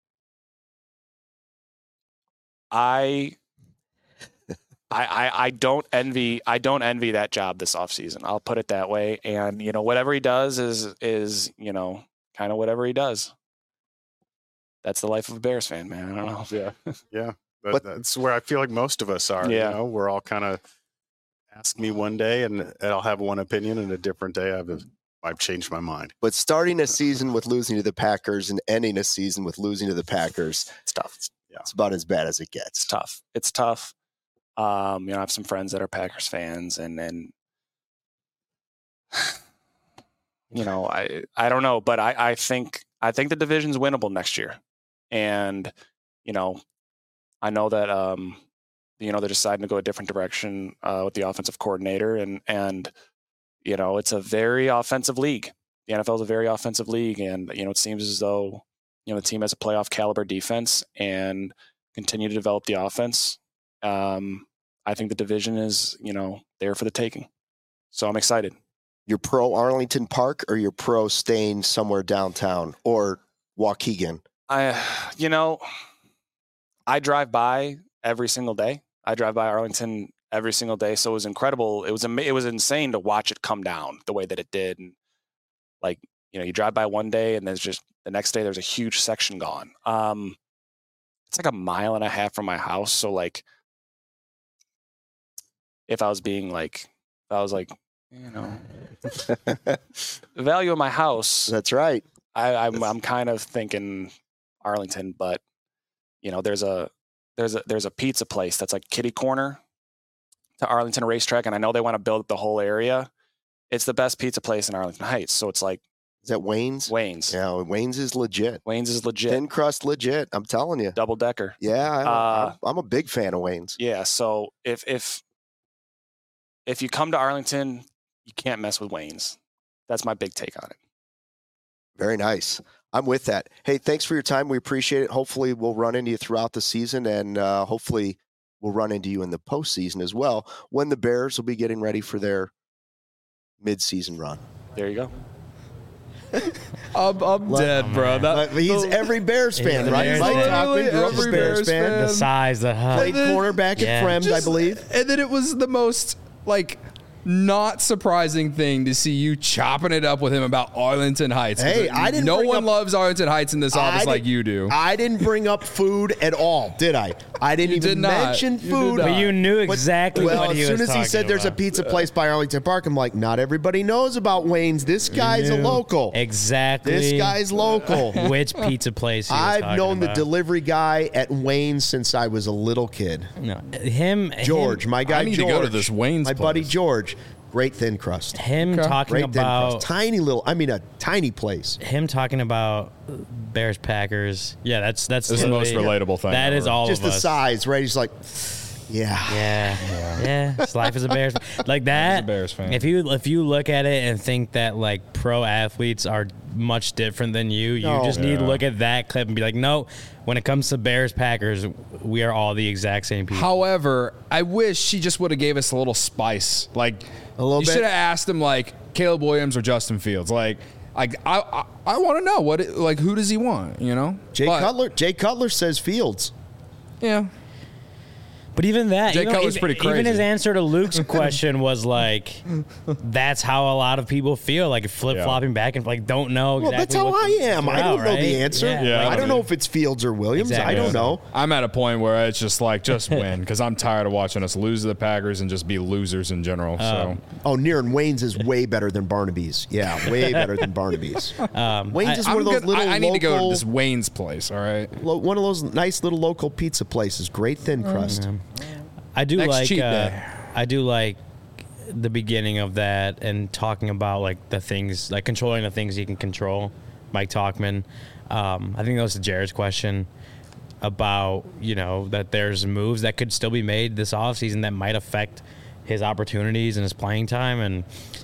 I, I, I, I don't envy I don't envy that job this offseason. I'll put it that way. And, you know, whatever he does is is, you know, kind of whatever he does. That's the life of a Bears fan, man. I don't know.
Yeah. Yeah. But,
But-
that's where I feel like most of us are.
Yeah.
You know, we're all kind of ask me one day and, and I'll have one opinion, and a different day I've I've changed my mind.
But starting a season with losing to the Packers and ending a season with losing to the Packers,
It's tough.
it's about as bad as it
It's
gets.
tough. It's tough. Um, you know, I have some friends that are Packers fans, and and you know, I I don't know, but I I think I think the division's winnable next year. And, you know, I know that um you know, they're deciding to go a different direction uh, with the offensive coordinator, and and you know, it's a very offensive league. The N F L is a very offensive league, and you know, it seems as though, you know, the team has a playoff caliber defense and continue to develop the offense. Um, I think the division is, you know, there for the taking. So I'm excited.
You're pro Arlington Park, or you're pro staying somewhere downtown, or Waukegan?
I, you know, I drive by every single day. I drive by Arlington every single day. So it was incredible. It was, ama- it was insane to watch it come down the way that it did. And like, you know, you drive by one day and there's just the next day, there's a huge section gone. Um, it's like a mile and a half from my house. So like, if I was being like, if I was like, you know, the value of my house.
That's right.
I, I'm I'm kind of thinking Arlington, but you know, there's a there's a there's a pizza place that's like kitty corner to Arlington Racetrack, and I know they want to build the whole area. It's the best pizza place in Arlington Heights, so it's like
Is that Wayne's?
Wayne's.
Yeah, Wayne's is legit.
Wayne's is legit.
Thin crust legit. I'm telling you.
Double decker.
Yeah, I,
Uh,
I'm, I'm a big fan of Wayne's.
Yeah. So if if if you come to Arlington, you can't mess with Wayne's. That's my big take on it.
Very nice. I'm with that. Hey, thanks for your time. We appreciate it. Hopefully, we'll run into you throughout the season, and uh, hopefully, we'll run into you in the postseason as well when the Bears will be getting ready for their midseason run.
There you go.
I'm, I'm dead, bro. That,
But he's every Bears
Yeah,
fan,
the
right?
Bears
Mike
fan.
Talkman grew up
Every
a Bears,
Bears
fan.
fan.
The size, the height.
Played
then-
cornerback
Yeah.
at Frems, I
Just-
believe.
And then it was the most like not surprising thing to see you chopping it up with him about Arlington Heights.
Hey, I didn't
No
bring
one
up-
loves Arlington Heights in this office
I
like
did-
you do.
I didn't bring up food at all, did I? I didn't
You
even
did not.
mention
You did
food.
not.
But you knew
But-
exactly
well,
what he
as soon
was
as he
talking
said there's a
about.
pizza place by Arlington Park, I'm like, not everybody knows about Wayne's. This guy's a
Knew
local.
Exactly.
This guy's local.
Which pizza place he was
I've
talking
known the
about.
delivery guy at Wayne's since I was a little kid.
No, him,
George,
him,
my guy
I need to
George.
go to this Wayne's
My buddy
place.
George. Great thin crust.
him
Okay.
talking
Great thin
about
crust. Tiny little, I mean, a tiny place.
him talking about Bears Packers. Yeah, that's that's
This is the most
literally-
relatable thing
That
ever.
is all
Just
of
the
us.
size, right? He's like, yeah.
Yeah, yeah. His life as a Bears like that.
a Bears fan.
If you if you look at it and think that like pro athletes are much different than you, you
No.
just need to
Yeah.
look at that clip and be like, no. When it comes to Bears Packers, we are all the exact same people.
However, I wish she just would have gave us a little spice. Like
A little
you
bit?
should have asked him like Caleb Williams or Justin Fields. Like, like I I, I want to know what it, like who does he want? You know,
Jay
But,
Cutler. Jay Cutler says Fields.
Yeah,
But even that,
Jay
even,
Cutler's
even,
pretty
even his
crazy.
answer to Luke's question was like, "That's how a lot of people feel, like flip flopping back and like don't know."
Well,
exactly
that's how
what
I
the-
am. I
out,
don't know
right?
the answer.
Yeah,
Yeah,
I
like,
don't know if it's Fields or Williams.
Exactly.
I don't know.
I'm at a point where it's just like just win because I'm tired of watching us lose to the Packers and just be losers in general. So
Oh, near and Wayne's is way better than Barnaby's. Yeah, way better than Barnaby's.
Um,
Wayne's
I-
is
I'm
one of those
good-
little
I, I need to go to
local-
this Wayne's place. All right,
lo- one of those nice little local pizza places. Great thin crust.
I do
Next
like
cheat
uh,
day.
I do like the beginning of that and talking about like the things like controlling the things you can control. Mike Talkman. Um, I think that was to Jared's question about, you know, that there's moves that could still be made this offseason that might affect his opportunities and his playing time. And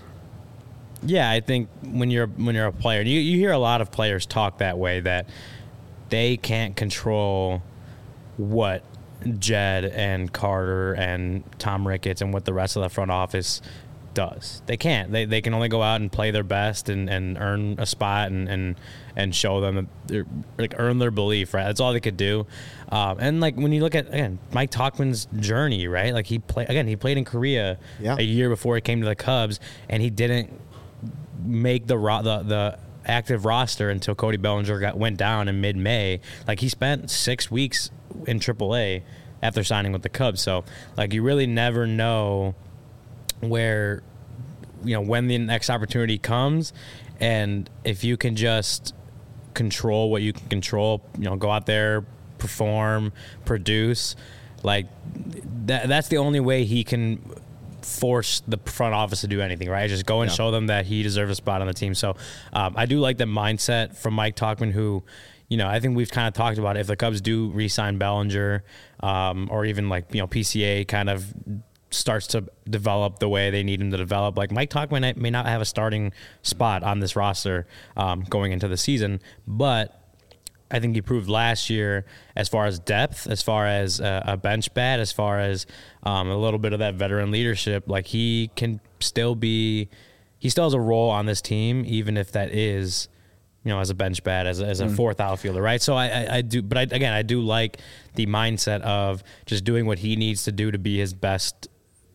yeah, I think when you're when you're a player, you, you hear a lot of players talk that way, that they can't control what Jed and Carter and Tom Ricketts and what the rest of the front office does. They can't. They, they can only go out and play their best and, and earn a spot and, and, and show them, that they're, like, earn their belief, right? That's all they could do. Um, and, like, when you look at, again, Mike Talkman's journey, right? Like, he played, again, he played in Korea
Yeah.
a year before he came to the Cubs, and he didn't make the ro- the the active roster until Cody Bellinger got went down in mid-May. Like, he spent six weeks in triple A after signing with the Cubs. So, like, you really never know where, you know, when the next opportunity comes. And if you can just control what you can control, you know, go out there, perform, produce, like, that that's the only way he can force the front office to do anything, right? Just go and
Yeah.
show them that he deserves a spot on the team. So um, I do like the mindset from Mike Talkman, who, you know, I think we've kind of talked about if the Cubs do re-sign Bellinger, um, or even like, you know, P C A kind of starts to develop the way they need him to develop. Like, Mike Talkman may not have a starting spot on this roster um, going into the season, but I think he proved last year as far as depth, as far as uh, a bench bat, as far as um, a little bit of that veteran leadership. Like, he can still be, he still has a role on this team, even if that is, you know, as a bench bat, as a, as a fourth outfielder, right? So I, I, I do, but I, again, I do like the mindset of just doing what he needs to do to be his best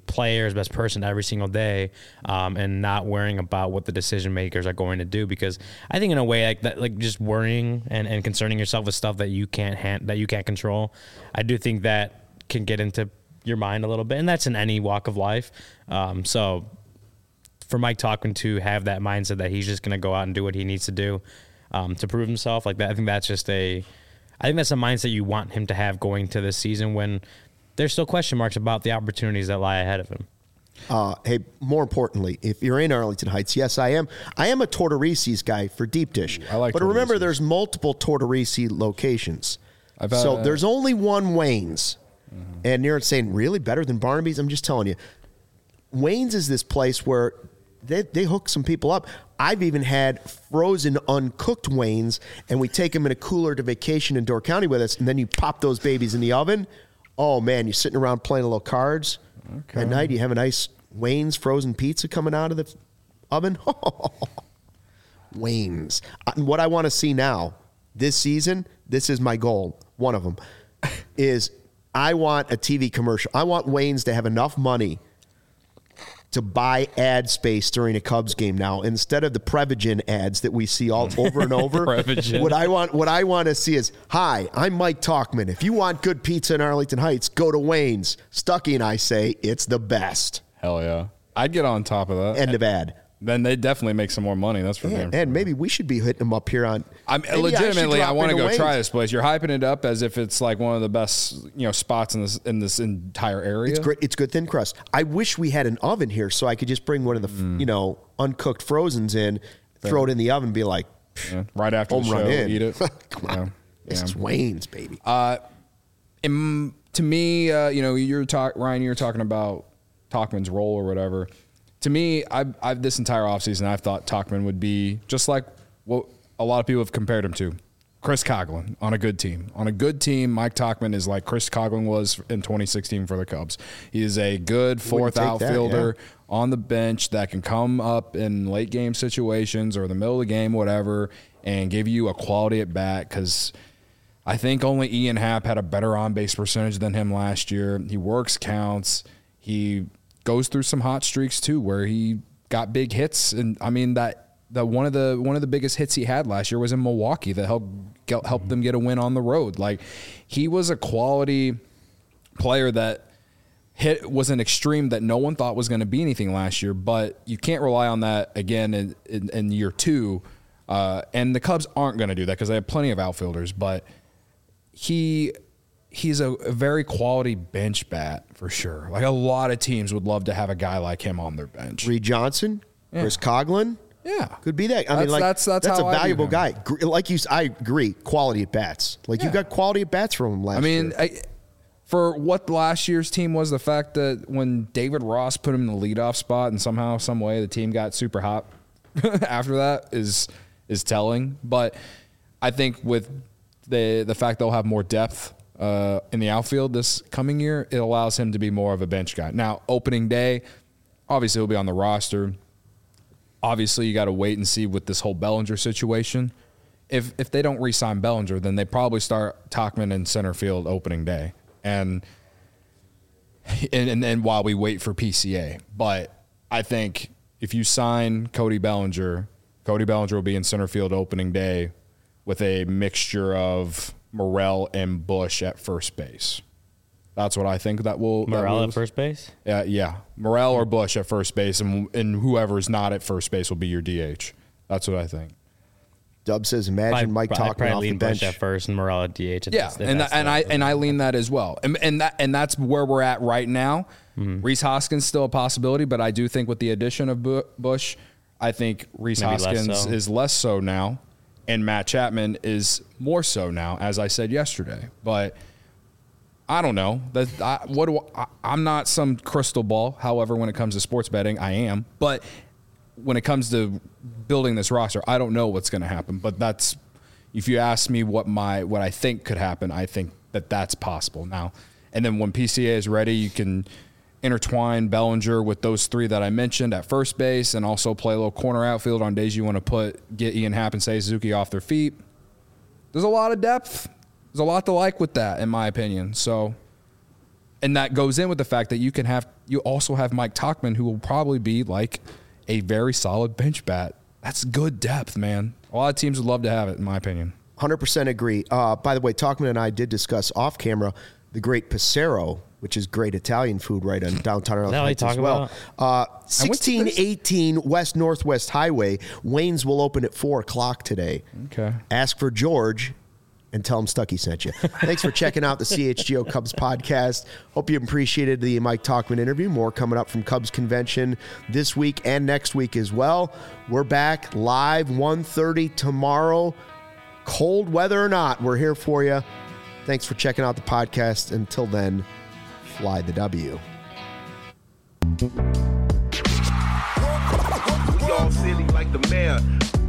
player, his best person every single day, um, and not worrying about what the decision makers are going to do. Because I think in a way like that, like just worrying and, and concerning yourself with stuff that you can't hand, that you can't control, I do think that can get into your mind a little bit, and that's in any walk of life. Um, so for Mike Tauchman to have that mindset that he's just going to go out and do what he needs to do um, to prove himself, like that, I think that's just a, I think that's a mindset you want him to have going to this season when there's still question marks about the opportunities that lie ahead of him.
Uh, hey, more importantly, if you're in Arlington Heights, yes, I am. I am a Tortorices guy for deep dish.
I like
but remember,
Tortorices.
there's multiple Tortorice locations.
I've had,
so
uh,
there's only one Wayne's. Mm-hmm. And you're saying, really? Better than Barnaby's? I'm just telling you. Wayne's is this place where they, they hook some people up. I've even had frozen, uncooked Wayne's, and we take them in a cooler to vacation in Door County with us, and then you pop those babies in the oven. Oh, man, you're sitting around playing a little cards. Okay. At night, you have a nice Wayne's frozen pizza coming out of the oven. Wayne's. And what I want to see now, this season, this is my goal, one of them, is I want a T V commercial. I want Wayne's to have enough money to buy ad space during a Cubs game now, instead of the Prevagen ads that we see all over and over. what I want, what I want to see is, hi, I'm Mike Tauchman. If you want good pizza in Arlington Heights, go to Wayne's. Stuckey and I say it's the best.
Hell yeah. I'd get on top of that.
End of ad.
Then they definitely make some more money. That's for
Yeah,
damn
and
sure.
maybe we should be hitting them up here on.
I'm
maybe
legitimately. I,
I,
want to go
Wayne's.
try this place. You're hyping it up as if it's like one of the best, you know, spots in this in this entire area.
It's great. It's good thin crust. I wish we had an oven here so I could just bring one of the mm. you know uncooked frozens in, Fair. throw it in the oven, and be like,
yeah. right after
home
the
run
show,
in.
eat it.
Come on,
yeah.
this
yeah.
is Wayne's, baby.
Uh, and to me, uh, you know, you're talk Ryan. You're talking about Tauchman's role or whatever. To me, I've, I've this entire offseason, I've thought Tauchman would be just like what a lot of people have compared him to. Chris Coghlan on a good team. On a good team, Mike Tauchman is like Chris Coghlan was in twenty sixteen for the Cubs. He is a good fourth outfielder that, yeah. on the bench that can come up in late game situations or the middle of the game, whatever, and give you a quality at bat because I think only Ian Happ had a better on-base percentage than him last year. He works counts. He goes through some hot streaks too, where he got big hits, and I mean that that one of the one of the biggest hits he had last year was in Milwaukee that helped get, helped them get a win on the road. Like he was a quality player that hit was an extreme that no one thought was going to be anything last year, but you can't rely on that again in, in, in year two. Uh, and the Cubs aren't going to do that because they have plenty of outfielders, but he. He's a, a very quality bench bat for sure. Like a lot of teams would love to have a guy like him on their bench.
Reed Johnson, yeah. Chris Coghlan,
yeah,
could be that. I
that's,
mean, like
that's that's,
that's
how
a valuable guy. Like you, I agree. Quality at bats. Like yeah. you got quality at bats from him last.
I mean,
year.
I, for what last year's team was, the fact that when David Ross put him in the leadoff spot and somehow, some way, the team got super hot after that is is telling. But I think with the the fact they'll have more depth. Uh, in the outfield this coming year, it allows him to be more of a bench guy. Now, opening day, obviously he'll be on the roster. Obviously, you got to wait and see with this whole Bellinger situation. If if they don't re-sign Bellinger, then they probably start Tauchman in center field opening day, and and and then while we wait for P C A. But I think if you sign Cody Bellinger, Cody Bellinger will be in center field opening day with a mixture of Morel and Bush at first base. That's what I think that will.
Morel
that
at first base?
Yeah, yeah. Morel or Bush at first base, and and whoever's not at first base will be your D H. That's what I think.
Dub says, imagine
I'd,
Mike
I'd
Tauchman off the bench
Bush at first and Morel at D H.
Yeah, and that, and I and I lean that as well, and and that and that's where we're at right now. Mm-hmm. Rhys Hoskins still a possibility, but I do think with the addition of Bush, I think Rhys
Maybe
Hoskins
less so.
is less so now. And Matt Chapman is more so now, as I said yesterday. But I don't know. That I, what do I, I'm not some crystal ball. However, when it comes to sports betting, I am. But when it comes to building this roster, I don't know what's going to happen. But that's if you ask me what my what I think could happen, I think that that's possible now. And then when P C A is ready, you can intertwine Bellinger with those three that I mentioned at first base and also play a little corner outfield on days you want to put get Ian Happ and Seiya Suzuki off their feet. There's a lot of depth. There's a lot to like with that, in my opinion. So And that goes in with the fact that you can have, you also have Mike Tauchman, who will probably be like a very solid bench bat. That's good depth, man. A lot of teams would love to have it, in my opinion.
one hundred percent agree. Uh, by the way, Tauchman and I did discuss off camera the great Passero, which is great Italian food right on downtown Arlington Heights as well. Uh, sixteen eighteen West Northwest Highway. Wayne's will open at four o'clock today.
Okay.
Ask for George and tell him Stucky sent you. Thanks for checking out the C H G O Cubs podcast. Hope you appreciated the Mike Tauchman interview. More coming up from Cubs Convention this week and next week as well. We're back live one thirty tomorrow. Cold weather or not, we're here for you. Thanks for checking out the podcast. Until then, fly the W.
We all silly like the mayor.